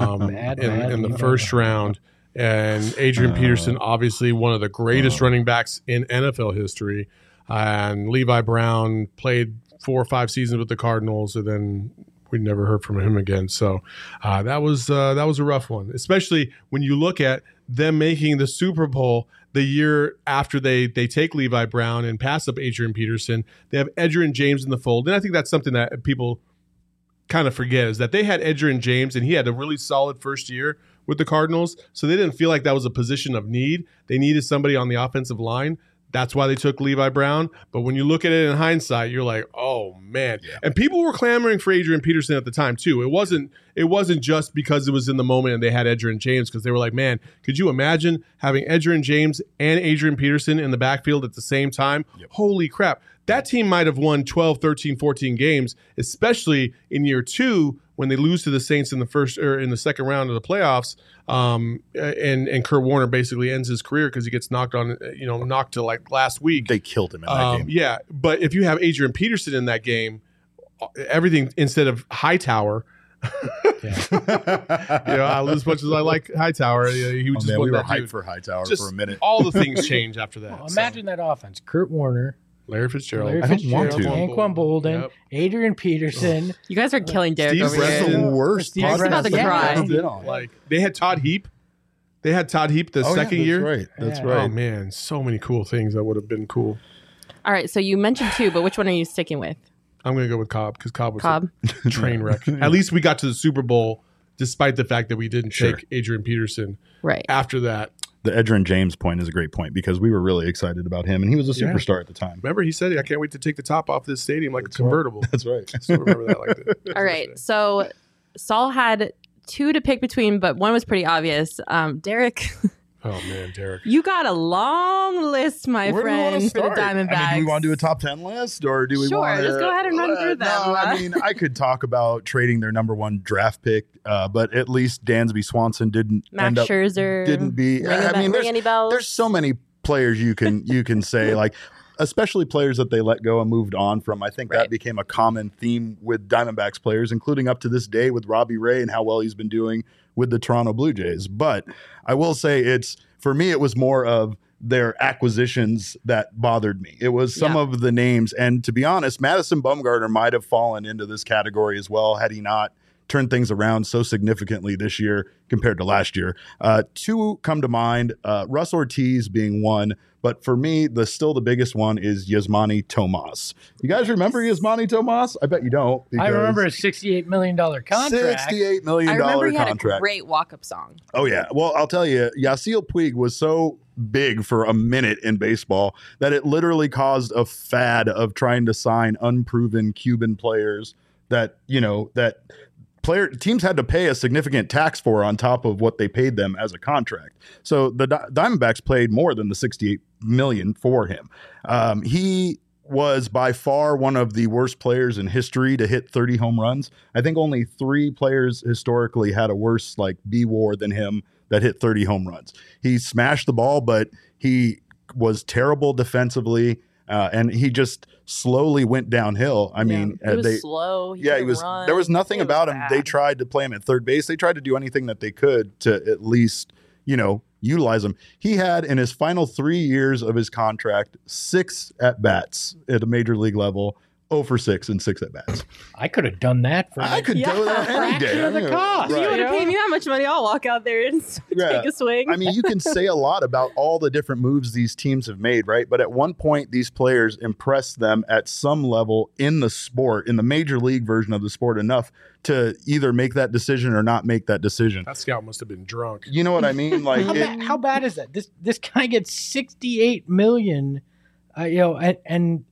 in the first round. And Adrian Peterson, obviously one of the greatest running backs in NFL history. And Levi Brown played 4 or 5 seasons with the Cardinals, and then we never heard from him again. So that was a rough one, especially when you look at them making the Super Bowl the year after they take Levi Brown and pass up Adrian Peterson. They have Edgerrin James in the fold. And I think that's something that people kind of forget is that they had Edgerrin James, and he had a really solid first year with the Cardinals. So they didn't feel like that was a position of need. They needed somebody on the offensive line. That's why they took Levi Brown. But when you look at it in hindsight, you're like, oh, man. Yeah. And people were clamoring for Adrian Peterson at the time, too. It wasn't just because it was in the moment and they had Edgerrin James, because they were like, man, could you imagine having Edgerrin James and Adrian Peterson in the backfield at the same time? Yep. Holy crap. That team might have won 12, 13, 14 games, especially in year 2 when they lose to the Saints in the second round of the playoffs. And Kurt Warner basically ends his career because he gets knocked to like last week. They killed him in that game. Yeah, but if you have Adrian Peterson in that game, everything instead of Hightower. As much as I like Hightower, he was just we were hyped for Hightower for a minute. All the things change after that. Well, imagine that offense: Kurt Warner, Larry Fitzgerald, Anquan Bolden, Adrian Peterson. You guys are killing Derek Steve over here. The worst. Steve's about to cry. Like they had Todd Heap. They had Todd Heap the second year. That's Oh right. man, so many cool things that would have been cool. All right, so you mentioned 2, but which one are you sticking with? I'm going to go with Cobb because Cobb was a train wreck. At least we got to the Super Bowl, despite the fact that we didn't take Adrian Peterson. Right after that. The Edgerrin James point is a great point because we were really excited about him, and he was a superstar at the time. Remember, he said, I can't wait to take the top off this stadium like a convertible. That's right. I still remember that like that. All right, so Saul had 2 to pick between, but one was pretty obvious. Derek. Oh, man, Derek. You got a long list, my friend, for the Diamondbacks. I mean, do we want to do a top 10 list, or do we want to... Sure, let's go ahead and run through them. No, I mean, I could talk about trading their number 1 draft pick, but at least Dansby Swanson didn't Max Scherzer didn't be... There's so many players you can say, like... especially players that they let go and moved on from. I think that became a common theme with Diamondbacks players, including up to this day with Robbie Ray and how well he's been doing with the Toronto Blue Jays. But I will say for me, it was more of their acquisitions that bothered me. It was some of the names. And to be honest, Madison Bumgarner might have fallen into this category as well had he not turned things around so significantly this year compared to last year. 2 come to mind, Russ Ortiz being one. But for me, still the biggest one is Yasmani Tomas. You guys remember Yasmani Tomas? I bet you don't. I remember a $68 million contract. $68 million contract. I remember he had a great walk-up song. Oh, yeah. Well, I'll tell you, Yasiel Puig was so big for a minute in baseball that it literally caused a fad of trying to sign unproven Cuban players that teams had to pay a significant tax for on top of what they paid them as a contract. So the Diamondbacks paid more than the $68 million for him. He was by far one of the worst players in history to hit 30 home runs. I think only 3 players historically had a worse B-WAR than him that hit 30 home runs. He smashed the ball, but he was terrible defensively. And he just slowly went downhill. I mean, he was slow. He was. Run. There was nothing about him. Bad. They tried to play him at third base. They tried to do anything that they could to at least, utilize him. He had in his final 3 years of his contract 6 at bats at a major league level. 0 for 6 and 6 at bats. I could have done that for. I could do that any day. Of the cost. If you would have paid me that much money, I'll walk out there and take a swing. I mean, you can say a lot about all the different moves these teams have made, right? But at one point, these players impressed them at some level in the sport, in the major league version of the sport, enough to either make that decision or not make that decision. That scout must have been drunk. You know what I mean? Like, how bad is that? This guy gets $68 million, and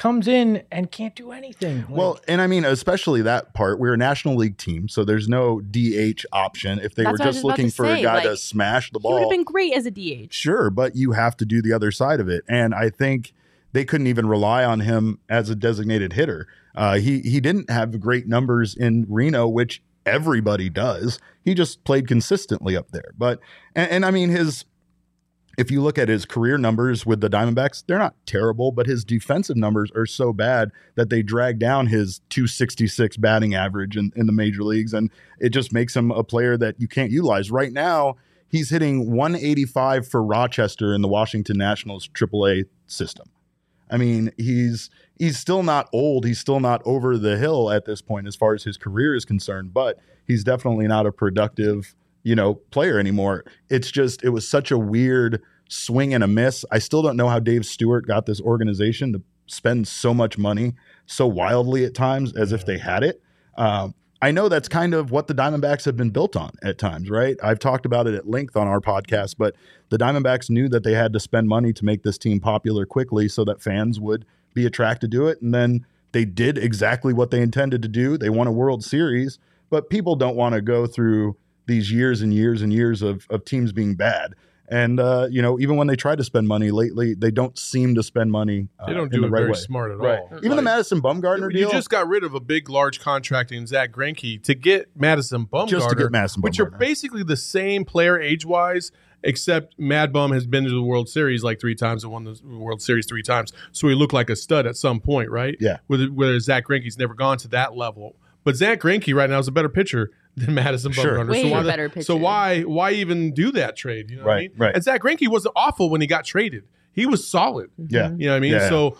comes in and can't do anything. Well, and I mean, especially that part, we're a National League team, so there's no DH option. If they That's were what I was just about looking to for say, a guy like, to smash the He would ball, have been great as a DH. sure, but you have to do the other side of it. And I think they couldn't even rely on him as a designated hitter. He didn't have great numbers in Reno, which everybody does. He just played consistently up there. But and I mean, if you look at his career numbers with the Diamondbacks, they're not terrible, but his defensive numbers are so bad that they drag down his 266 batting average in the major leagues, and it just makes him a player that you can't utilize. Right now, he's hitting 185 for Rochester in the Washington Nationals AAA system. I mean, he's still not old. He's still not over the hill at this point as far as his career is concerned, but he's definitely not a productive, player anymore. It was such a weird swing and a miss. I still don't know how Dave Stewart got this organization to spend so much money so wildly at times as if they had it. I know that's kind of what the Diamondbacks have been built on at times, right? I've talked about it at length on our podcast, but the Diamondbacks knew that they had to spend money to make this team popular quickly so that fans would be attracted to it. And then they did exactly what they intended to do. They won a World Series, but people don't want to go through these years and years and years of teams being bad. And, even when they try to spend money lately, they don't seem to spend money. They don't do it very smart at all. Even the Madison Bumgarner deal. You just got rid of a big, large contract in Zach Greinke to get Madison Bumgarner. Just to get Madison Bumgarner. Which are basically the same player age-wise, except Mad Bum has been to the World Series like 3 times and won the World Series 3 times. So he looked like a stud at some point, right? Yeah. Whereas Zach Greinke's never gone to that level. But Zach Greinke right now is a better pitcher than Madison Bumgarner. Way better pitcher. So why even do that trade? You know what I mean? Right. And Zach Greinke wasn't awful when he got traded. He was solid. Yeah. You know what I mean? Yeah. So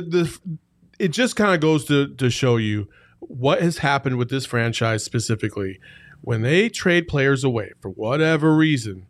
it just kind of goes to show you what has happened with this franchise specifically. When they trade players away for whatever reason,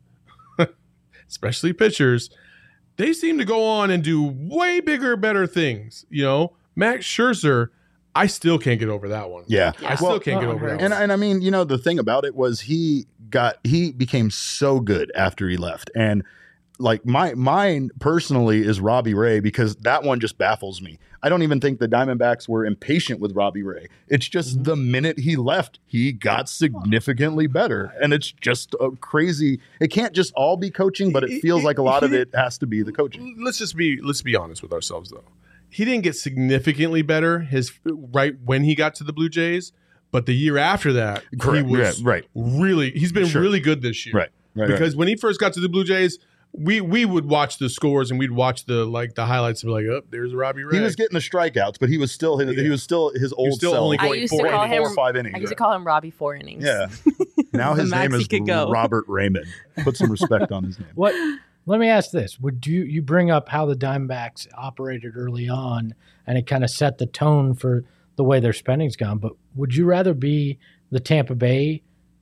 especially pitchers, they seem to go on and do way bigger, better things. Max Scherzer, I still can't get over that one. Yeah. I still can't get over that one. And I mean, the thing about it was he became so good after he left. And like mine personally is Robbie Ray, because that one just baffles me. I don't even think the Diamondbacks were impatient with Robbie Ray. It's just the minute he left, he got significantly better. And it's just a crazy. It can't just all be coaching, but it feels like a lot of it has to be the coaching. Let's be honest with ourselves, though. He didn't get significantly better right when he got to the Blue Jays, but the year after that, Correct. he was really. He's been really good this year, right? Because when he first got to the Blue Jays, we would watch the scores and we'd watch the highlights and be like, oh, there's Robbie Ray. He was getting the strikeouts, but he was still his old self. Only I going used to call him 4 or 5 innings. I used to call him Robbie 4 innings. Yeah. Now his name is Robert Raymond. Put some respect on his name. Let me ask this. Would you bring up how the Diamondbacks operated early on, and it kind of set the tone for the way their spending's gone, but would you rather be the Tampa Bay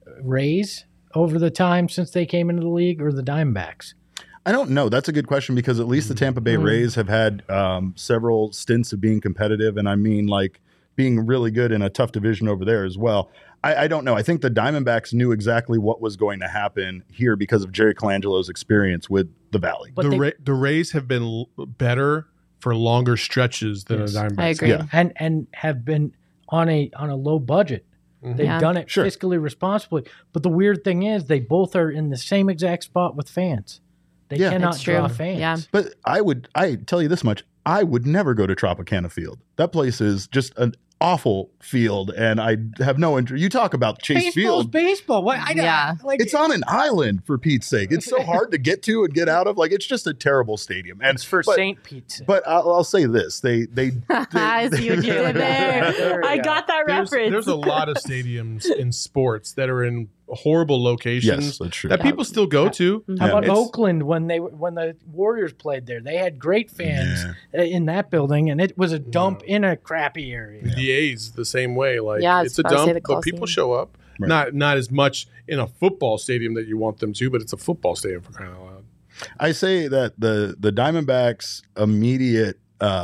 Rays over the time since they came into the league, or the Diamondbacks? I don't know. That's a good question, because at least the Tampa Bay Rays have had several stints of being competitive, and I mean like being really good in a tough division over there as well. I don't know. I think the Diamondbacks knew exactly what was going to happen here because of Jerry Colangelo's experience with the Valley. But the Rays have been better for longer stretches than the Diamondbacks. I agree. Yeah. And have been on a low budget. They've done it fiscally responsibly. But the weird thing is they both are in the same exact spot with fans. They cannot draw fans. Yeah. But I tell you this much, I would never go to Tropicana Field. That place is just an awful field, and I have no interest. You talk about Chase Field. Baseball. What? It's on an island, for Pete's sake. It's so hard to get to and get out of. Like, it's just a terrible stadium. And it's for St. Pete's. But I'll say this: they I see what you did there. I got that reference. There's a lot of stadiums in sports that are in horrible locations. Yes, that's true. That people still go to. How about Oakland when the Warriors played there? They had great fans in that building, and it was a dump in a crappy area. The A's the same way. Like, it's a I was dump, say the but people Coliseum. show up. Right. Not as much in a football stadium that you want them to, but it's a football stadium for crying out loud. I say that the Diamondbacks' immediate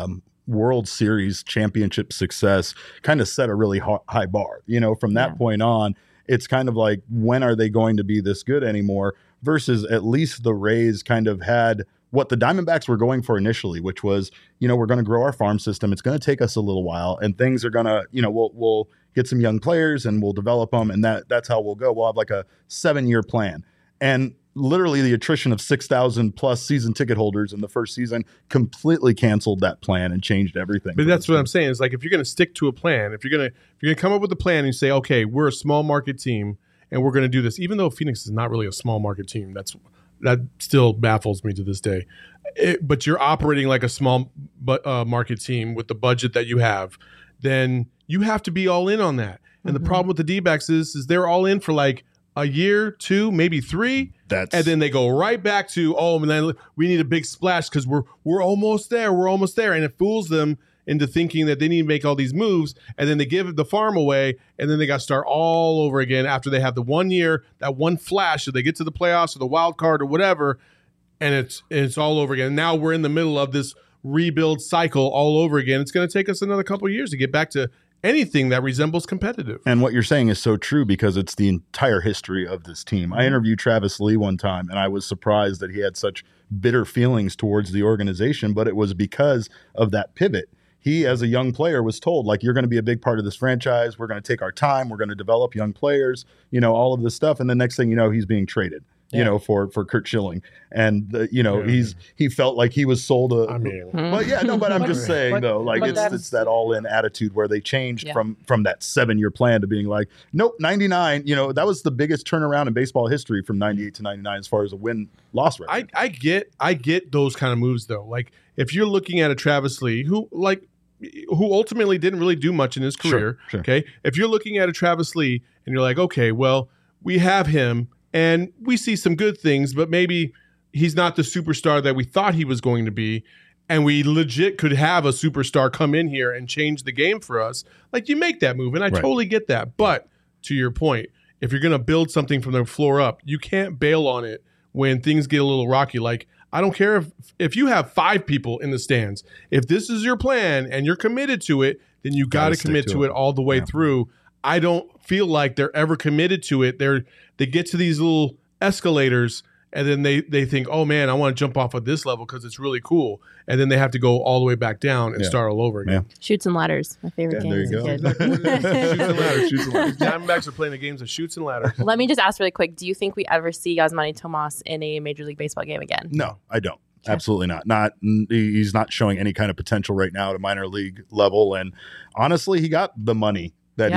World Series championship success kind of set a really high bar. From that point on, it's kind of like, when are they going to be this good anymore? Versus at least the Rays kind of had what the Diamondbacks were going for initially, which was, we're going to grow our farm system. It's going to take us a little while, and things are going to, we'll get some young players and we'll develop them, and that's how we'll go. We'll have like a 7-year plan. And literally the attrition of 6,000 plus season ticket holders in the first season completely canceled that plan and changed everything. But that's what I'm saying. Is like, if you're going to stick to a plan, if you're going to come up with a plan and you say, okay, we're a small market team and we're going to do this, even though Phoenix is not really a small market team, that still baffles me to this day. But you're operating like a small market team with the budget that you have, then you have to be all in on that. And the problem with the D-backs is they're all in for like a year, 2, maybe 3, and then they go right back to, and then we need a big splash because we're almost there, and it fools them into thinking that they need to make all these moves, and then they give the farm away, and then they got to start all over again after they have the 1 year, that one flash, if they get to the playoffs or the wild card or whatever, and it's all over again. Now we're in the middle of this rebuild cycle all over again. It's going to take us another couple of years to get back to anything that resembles competitive. And what you're saying is so true, because it's the entire history of this team. I interviewed Travis Lee one time, and I was surprised that he had such bitter feelings towards the organization, but it was because of that pivot. He, as a young player, was told, like, you're going to be a big part of this franchise. We're going to take our time. We're going to develop young players, all of this stuff. And the next thing you know, he's being traded, for Curt Schilling. And, he felt like he was sold but I'm just saying, though, like, it's that all-in attitude where they changed from that 7-year plan to being like, nope, 99, that was the biggest turnaround in baseball history from 98 to 99 as far as a win-loss record. I get those kind of moves, though. Like, if you're looking at a Travis Lee who ultimately didn't really do much in his career, sure. Okay? If you're looking at a Travis Lee and you're like, okay, well, we have him and we see some good things, but maybe he's not the superstar that we thought he was going to be, and we legit could have a superstar come in here and change the game for us, like, you make that move, and I totally get that. But to your point, if you're going to build something from the floor up, you can't bail on it when things get a little rocky. Like, I don't care if you have 5 people in the stands. If this is your plan and you're committed to it, then you got to commit to it all the way through. I don't feel like they're ever committed to it. They get to these little escalators, and then they think, oh, man, I want to jump off of this level because it's really cool. And then they have to go all the way back down and start all over again. Yeah. Chutes and ladders, my favorite game as a kid. Shoots and ladders. Diamondbacks are playing the games of shoots and ladders. Let me just ask really quick, do you think we ever see Yasmani Tomas in a Major League Baseball game again? No, I don't. Okay. Absolutely not. He's not showing any kind of potential right now at a minor league level. And honestly, he got the money that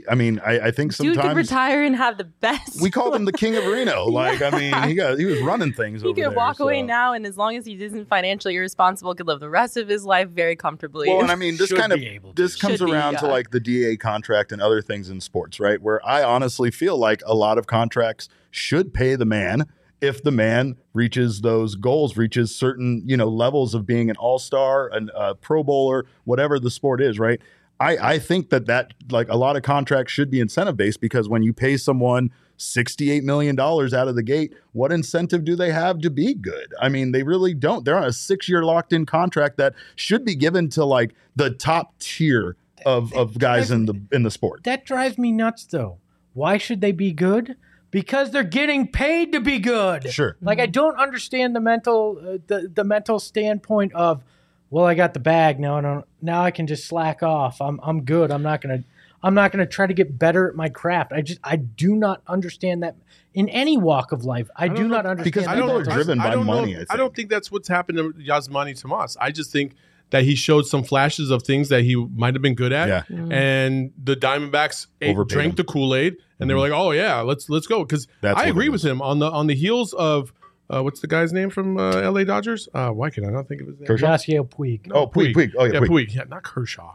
I think sometimes dude could retire and have the best. We called him the King of Reno. Like, I mean, he was running things over there. He could walk away now, and as long as he isn't financially irresponsible, could live the rest of his life very comfortably. Well, and I mean, this comes around to like the DA contract and other things in sports, right? Where I honestly feel like a lot of contracts should pay the man if the man reaches those goals, reaches certain, levels of being an all-star, a Pro Bowler, whatever the sport is, right? I think that like a lot of contracts should be incentive based, because when you pay someone $68 million out of the gate, what incentive do they have to be good? I mean, they really don't. They're on a 6-year locked in contract that should be given to like the top tier of guys in the sport. That drives me nuts though. Why should they be good? Because they're getting paid to be good. Sure. Like, I don't understand the mental standpoint of, well, I got the bag now. Now I can just slack off. I'm good. I'm not gonna try to get better at my craft. I do not understand that in any walk of life. I do not understand because people are driven by money. I don't think that's what's happened to Yasmani Tomas. I just think that he showed some flashes of things that he might have been good at, and the Diamondbacks drank the Kool-Aid, and they were like, "Oh yeah, let's go." Because I agree with him on the heels of. What's the guy's name from LA Dodgers? Why can I not think of his name? Yasiel Puig. Oh, Puig. Oh, yeah, Puig. Yeah, not Kershaw.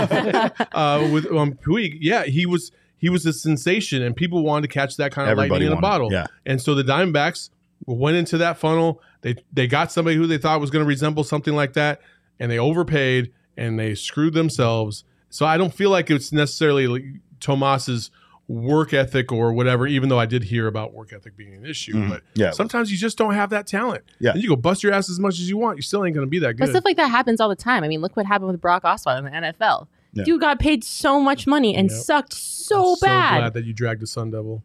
With Puig, he was a sensation, and people wanted to catch that kind of lightning in a bottle. Yeah. And so the Diamondbacks went into that funnel. They got somebody who they thought was going to resemble something like that, and they overpaid, and they screwed themselves. So I don't feel like it's necessarily like Tomas's work ethic or whatever, even though I did hear about work ethic being an issue. But sometimes you just don't have that talent. Yeah. And you go bust your ass as much as you want. You still ain't going to be that good. But stuff like that happens all the time. I mean, look what happened with Brock Osweiler in the NFL. Yeah. Dude got paid so much money and sucked so bad. So glad that you dragged the Sun Devil.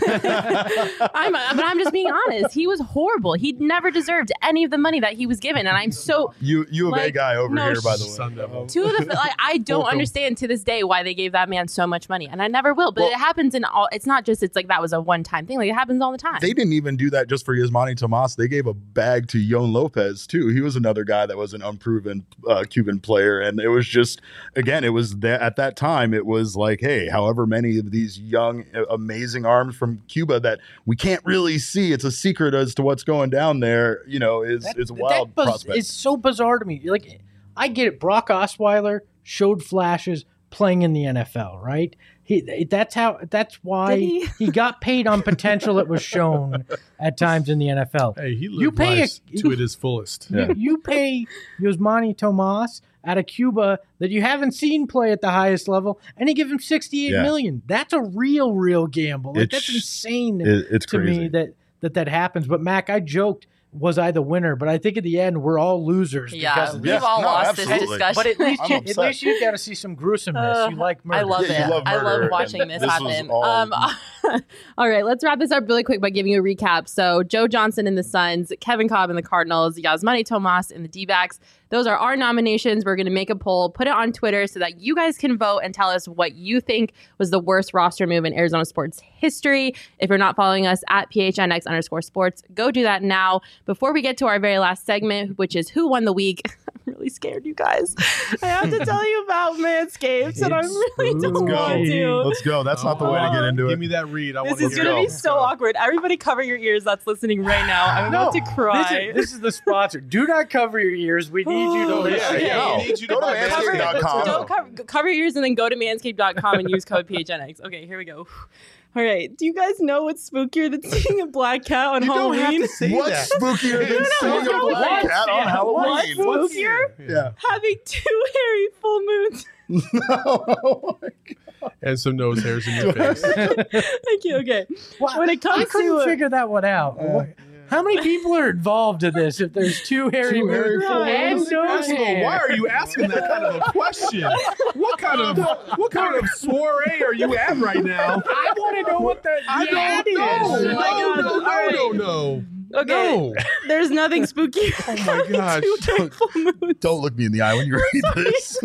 But I'm just being honest. He was horrible. He never deserved any of the money that he was given, and I'm so U of A guy over here, by the way. Sun Devil. I don't understand to this day why they gave that man so much money, and I never will. But it happens in all. It's not just that was a one-time thing. Like it happens all the time. They didn't even do that just for Yasmani Tomas. They gave a bag to Yon Lopez too. He was another guy that was an unproven Cuban player, and it was just again, it was at that time it was like, hey, however many of these young, amazing arms from Cuba that we can't really see. It's a secret as to what's going down there. You know, is a wild prospect. It's so bizarre to me. Like, I get it. Brock Osweiler showed flashes playing in the NFL, right? That's why he got paid on potential that was shown at times in the NFL. Hey, he lived life to it his fullest. You pay Yasmani Tomas out of Cuba that you haven't seen play at the highest level, and you give him $68 million. That's a real gamble. Like, that's insane it's to crazy. me that happens. But Mac, I joked, was I the winner? But I think at the end we're all losers. Yeah, because we've all lost absolutely. this discussion. But at least you got to see some gruesomeness. You like murder. I love Yeah, it. you love I murder, love watching and this this happen. was All right, let's wrap this up really quick by giving you a recap. So Joe Johnson in the Suns, Kevin Cobb in the Cardinals, Yasmani Tomas in the D-backs. Those are our nominations. We're going to make a poll, put it on Twitter so that you guys can vote and tell us what you think was the worst roster move in Arizona sports history. If you're not following us at PHNX_sports, go do that now. Before we get to our very last segment, which is Who Won the Week, I'm really scared, you guys. I have to tell you about Manscaped, and I really don't want to. Let's go. That's not the way to get into it. Give me that read. I want This to is hear going to it. be so awkward. Everybody cover your ears that's listening right now. I'm about to cry. This is the sponsor. Do not cover your ears. We need you to listen. Okay. No. We need you to Go to buy manscaped.com. Don't cover your ears and then go to manscaped.com and use code PHNX. Okay, here we go. All right. Do you guys know what's spookier than seeing a black cat on Halloween? Don't have to say What's that. spookier than seeing a black cat on Halloween? What's spookier? Yeah. Having 2 hairy full moons. Oh my God. And some nose hairs in your face. Thank you. Okay. When it comes I couldn't to figure that one out. How many people are involved in this? If there's 2 hairy moons and nose hair. Why are you asking that kind of a question? What kind of soiree are you at right now? I want to know what the yad is. Oh my God. No. Okay. No. There's nothing spooky. Oh my gosh. 2 hairy full moons. Don't look me in the eye when you read this.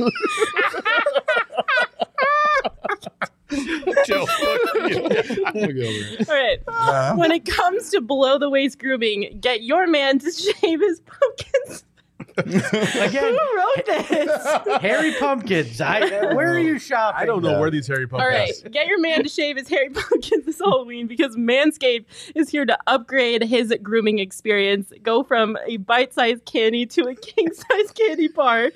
Joe, look over. All right. When it comes to below the waist grooming, get your man to shave his pumpkins. Again, Who wrote this? hairy pumpkins. Where are you shopping? I don't know where these hairy All pumpkins. right, get your man to shave his hairy pumpkins this Halloween because Manscaped is here to upgrade his grooming experience. Go from a bite-sized candy to a king-size candy bar.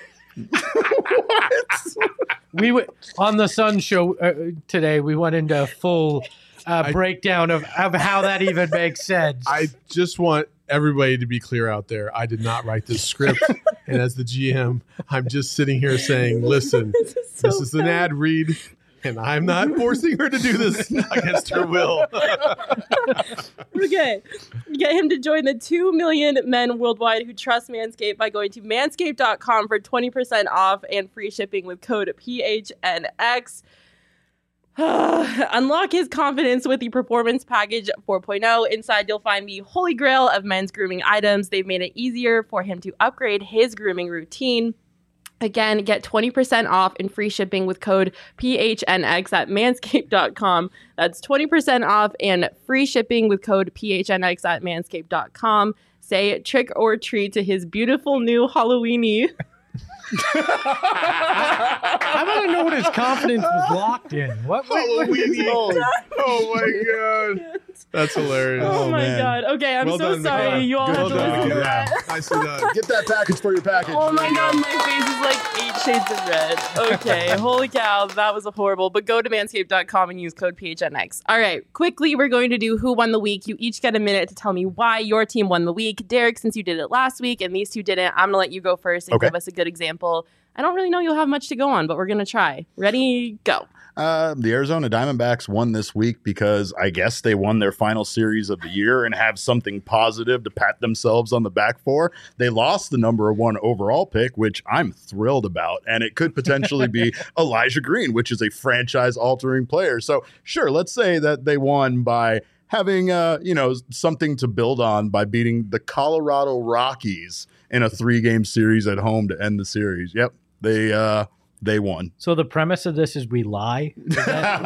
We went on the Sun show today. We went into a full breakdown of how that even makes sense. I just want everybody to be clear out there. I did not write this script. And as the GM, I'm just sitting here saying, listen, this is an ad read. And I'm not forcing her to do this against her will. Okay. Get him to join the 2 million men worldwide who trust Manscaped by going to manscaped.com for 20% off and free shipping with code PHNX. Unlock his confidence with the Performance Package 4.0. Inside, you'll find the holy grail of men's grooming items. They've made it easier for him to upgrade his grooming routine. Again, get 20% off and free shipping with code PHNX at manscaped.com. That's 20% off and free shipping with code PHNX at manscaped.com. Say trick or treat to his beautiful new Halloweeny. I want to know what his confidence was locked in. What? Oh my God. That's hilarious. Oh my man. God. Okay, I'm Well so done, sorry. Nicola. You all Good have to job. listen to Yeah. that. Nicely done. Get that package for your package. Oh my God, my face is like 8 shades of red. Okay, holy cow, that was horrible. But go to manscaped.com and use code PHNX. All right, quickly, we're going to do Who Won the Week. You each get a minute to tell me why your team won the week. Derek, since you did it last week and these two didn't, I'm going to let you go first and Okay. give us a good example I don't really know you'll have much to go on, but we're going to try. Ready, go. The Arizona Diamondbacks won this week because I guess they won their final series of the year and have something positive to pat themselves on the back for. They lost the number 1 overall pick, which I'm thrilled about, and it could potentially be Elijah Green, which is a franchise-altering player. So sure, let's say that they won by having something to build on by beating the Colorado Rockies in a 3-game series at home to end the series. Yep, they won. So the premise of this is we lie? What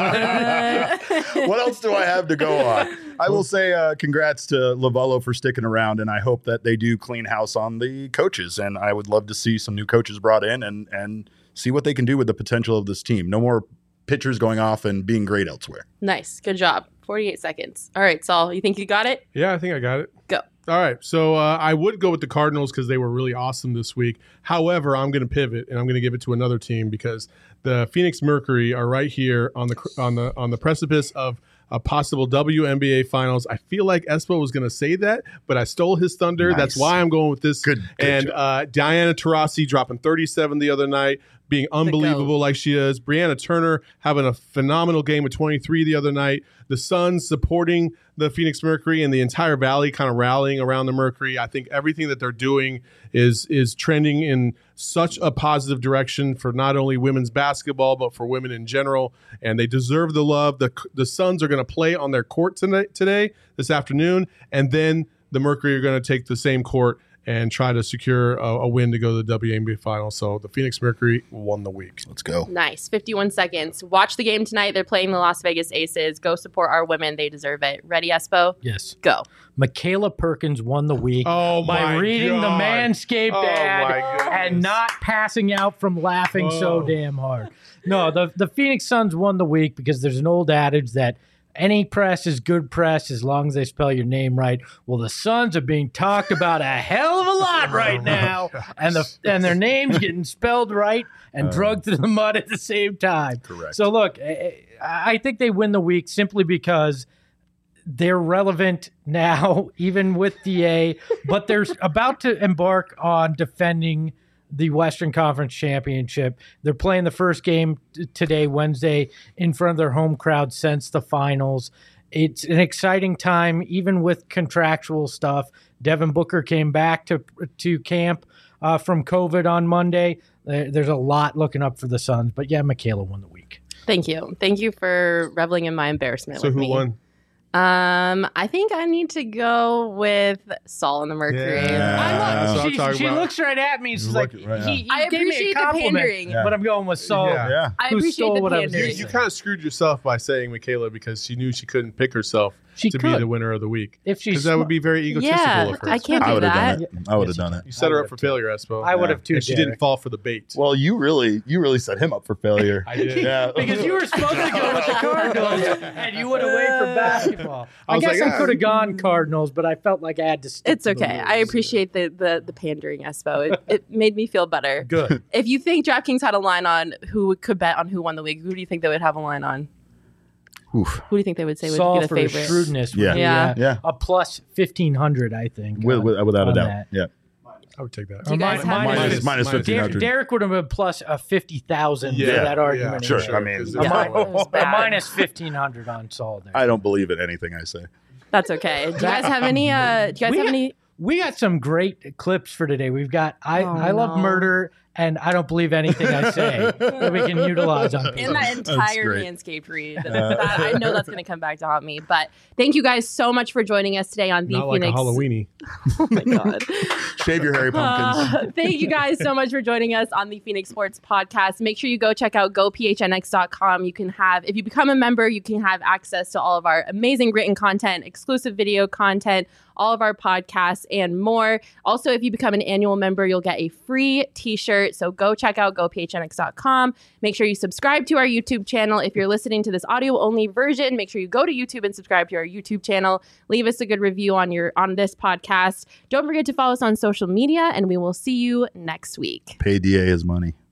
else do I have to go on? I will say congrats to Lovello for sticking around, and I hope that they do clean house on the coaches. And I would love to see some new coaches brought in and see what they can do with the potential of this team. No more pitchers going off and being great elsewhere. Nice. Good job. 48 seconds. All right, Saul, you think you got it? Yeah, I think I got it. Go. All right, so I would go with the Cardinals because they were really awesome this week. However, I'm going to pivot and I'm going to give it to another team because the Phoenix Mercury are right here on the precipice of a possible WNBA Finals. I feel like Espo was going to say that, but I stole his thunder. Nice. That's why I'm going with this. Good and job. Diana Taurasi dropping 37 the other night, being unbelievable like she is. Brianna Turner having a phenomenal game with 23 the other night. The Suns supporting the Phoenix Mercury and the entire Valley kind of rallying around the Mercury. I think everything that they're doing is trending in such a positive direction for not only women's basketball, but for women in general. And they deserve the love. The Suns are going to play on their court this afternoon. And then the Mercury are going to take the same court and try to secure a win to go to the WNBA Finals. So the Phoenix Mercury won the week. Let's go. Nice. 51 seconds. Watch the game tonight. They're playing the Las Vegas Aces. Go support our women. They deserve it. Ready, Espo? Yes. Go. Michaela Perkins won the week by reading the Manscaped ad and not passing out from laughing so damn hard. No, the Phoenix Suns won the week because there's an old adage that any press is good press as long as they spell your name right. Well, the Suns are being talked about a hell of a lot right now, and their names getting spelled right and drugged through the mud at the same time. Correct. So look, I think they win the week simply because they're relevant now, even with DA, but they're about to embark on defending the Western Conference Championship. They're playing the first game today, Wednesday, in front of their home crowd since the finals. It's an exciting time, even with contractual stuff. Devin Booker came back to camp from COVID on Monday. There's a lot looking up for the Suns, but yeah, Michaela won the week. Thank you. Thank you for reveling in my embarrassment. So with who me. won? I think I need to go with Saul and the Mercury. Yeah. She looks right at me. She's like, he I gave me a appreciate the compliment, pandering. but I'm going with Saul. Yeah. I Who appreciate stole the what I was pandering. You kind of screwed yourself by saying Michaela because she knew she couldn't pick herself She to could. be the winner of the week. If she's Because that would be very egotistical Yeah, of her. I can't I do would have that. done it. I would have done it. You set her up for failure, Espo. I would have too. And she Derek. didn't fall for the bait. Well, you really set him up for failure. I did. Yeah. Because you were supposed to go with the Cardinals, and you went away for basketball. I was guess like, I could have gone Cardinals, but I felt like I had to stick It's to the okay. rules. I appreciate the pandering, Espo. It made me feel better. Good. If you think DraftKings had a line on who could bet on who won the week, who do you think they would have a line on? Oof. Who do you think they would say would Saul be the for his favorite? shrewdness. Yeah. Would be, Yeah. a plus 1,500, I think. Without a on doubt. that. Yeah. I would take that. Do you guys have Minus Derek, 1,500. Derek would have been plus a 50,000 Yeah, for that argument. yeah, Sure. sure. I mean, Because Yeah, it was A bad. minus 1,500 on Saul there. I don't believe in anything I say. That's okay. Do you guys have any? We got some great clips for today. We've got I Love no. Murder and I Don't Believe Anything I Say that we can utilize on people. In that entire great. Manscaped read. That, I know that's going to come back to haunt me. But thank you guys so much for joining us today on the Not like a Phoenix. Halloweeny. Oh my God. Shave your hairy pumpkins. Thank you guys so much for joining us on the Phoenix Sports Podcast. Make sure you go check out gophnx.com. You can have, if you become a member, you can have access to all of our amazing written content, exclusive video content, all of our podcasts, and more. Also, if you become an annual member, you'll get a free t-shirt. So go check out gophnx.com. Make sure you subscribe to our YouTube channel. If you're listening to this audio-only version, make sure you go to YouTube and subscribe to our YouTube channel. Leave us a good review on this podcast. Don't forget to follow us on social media, and we will see you next week. Pay DA his money.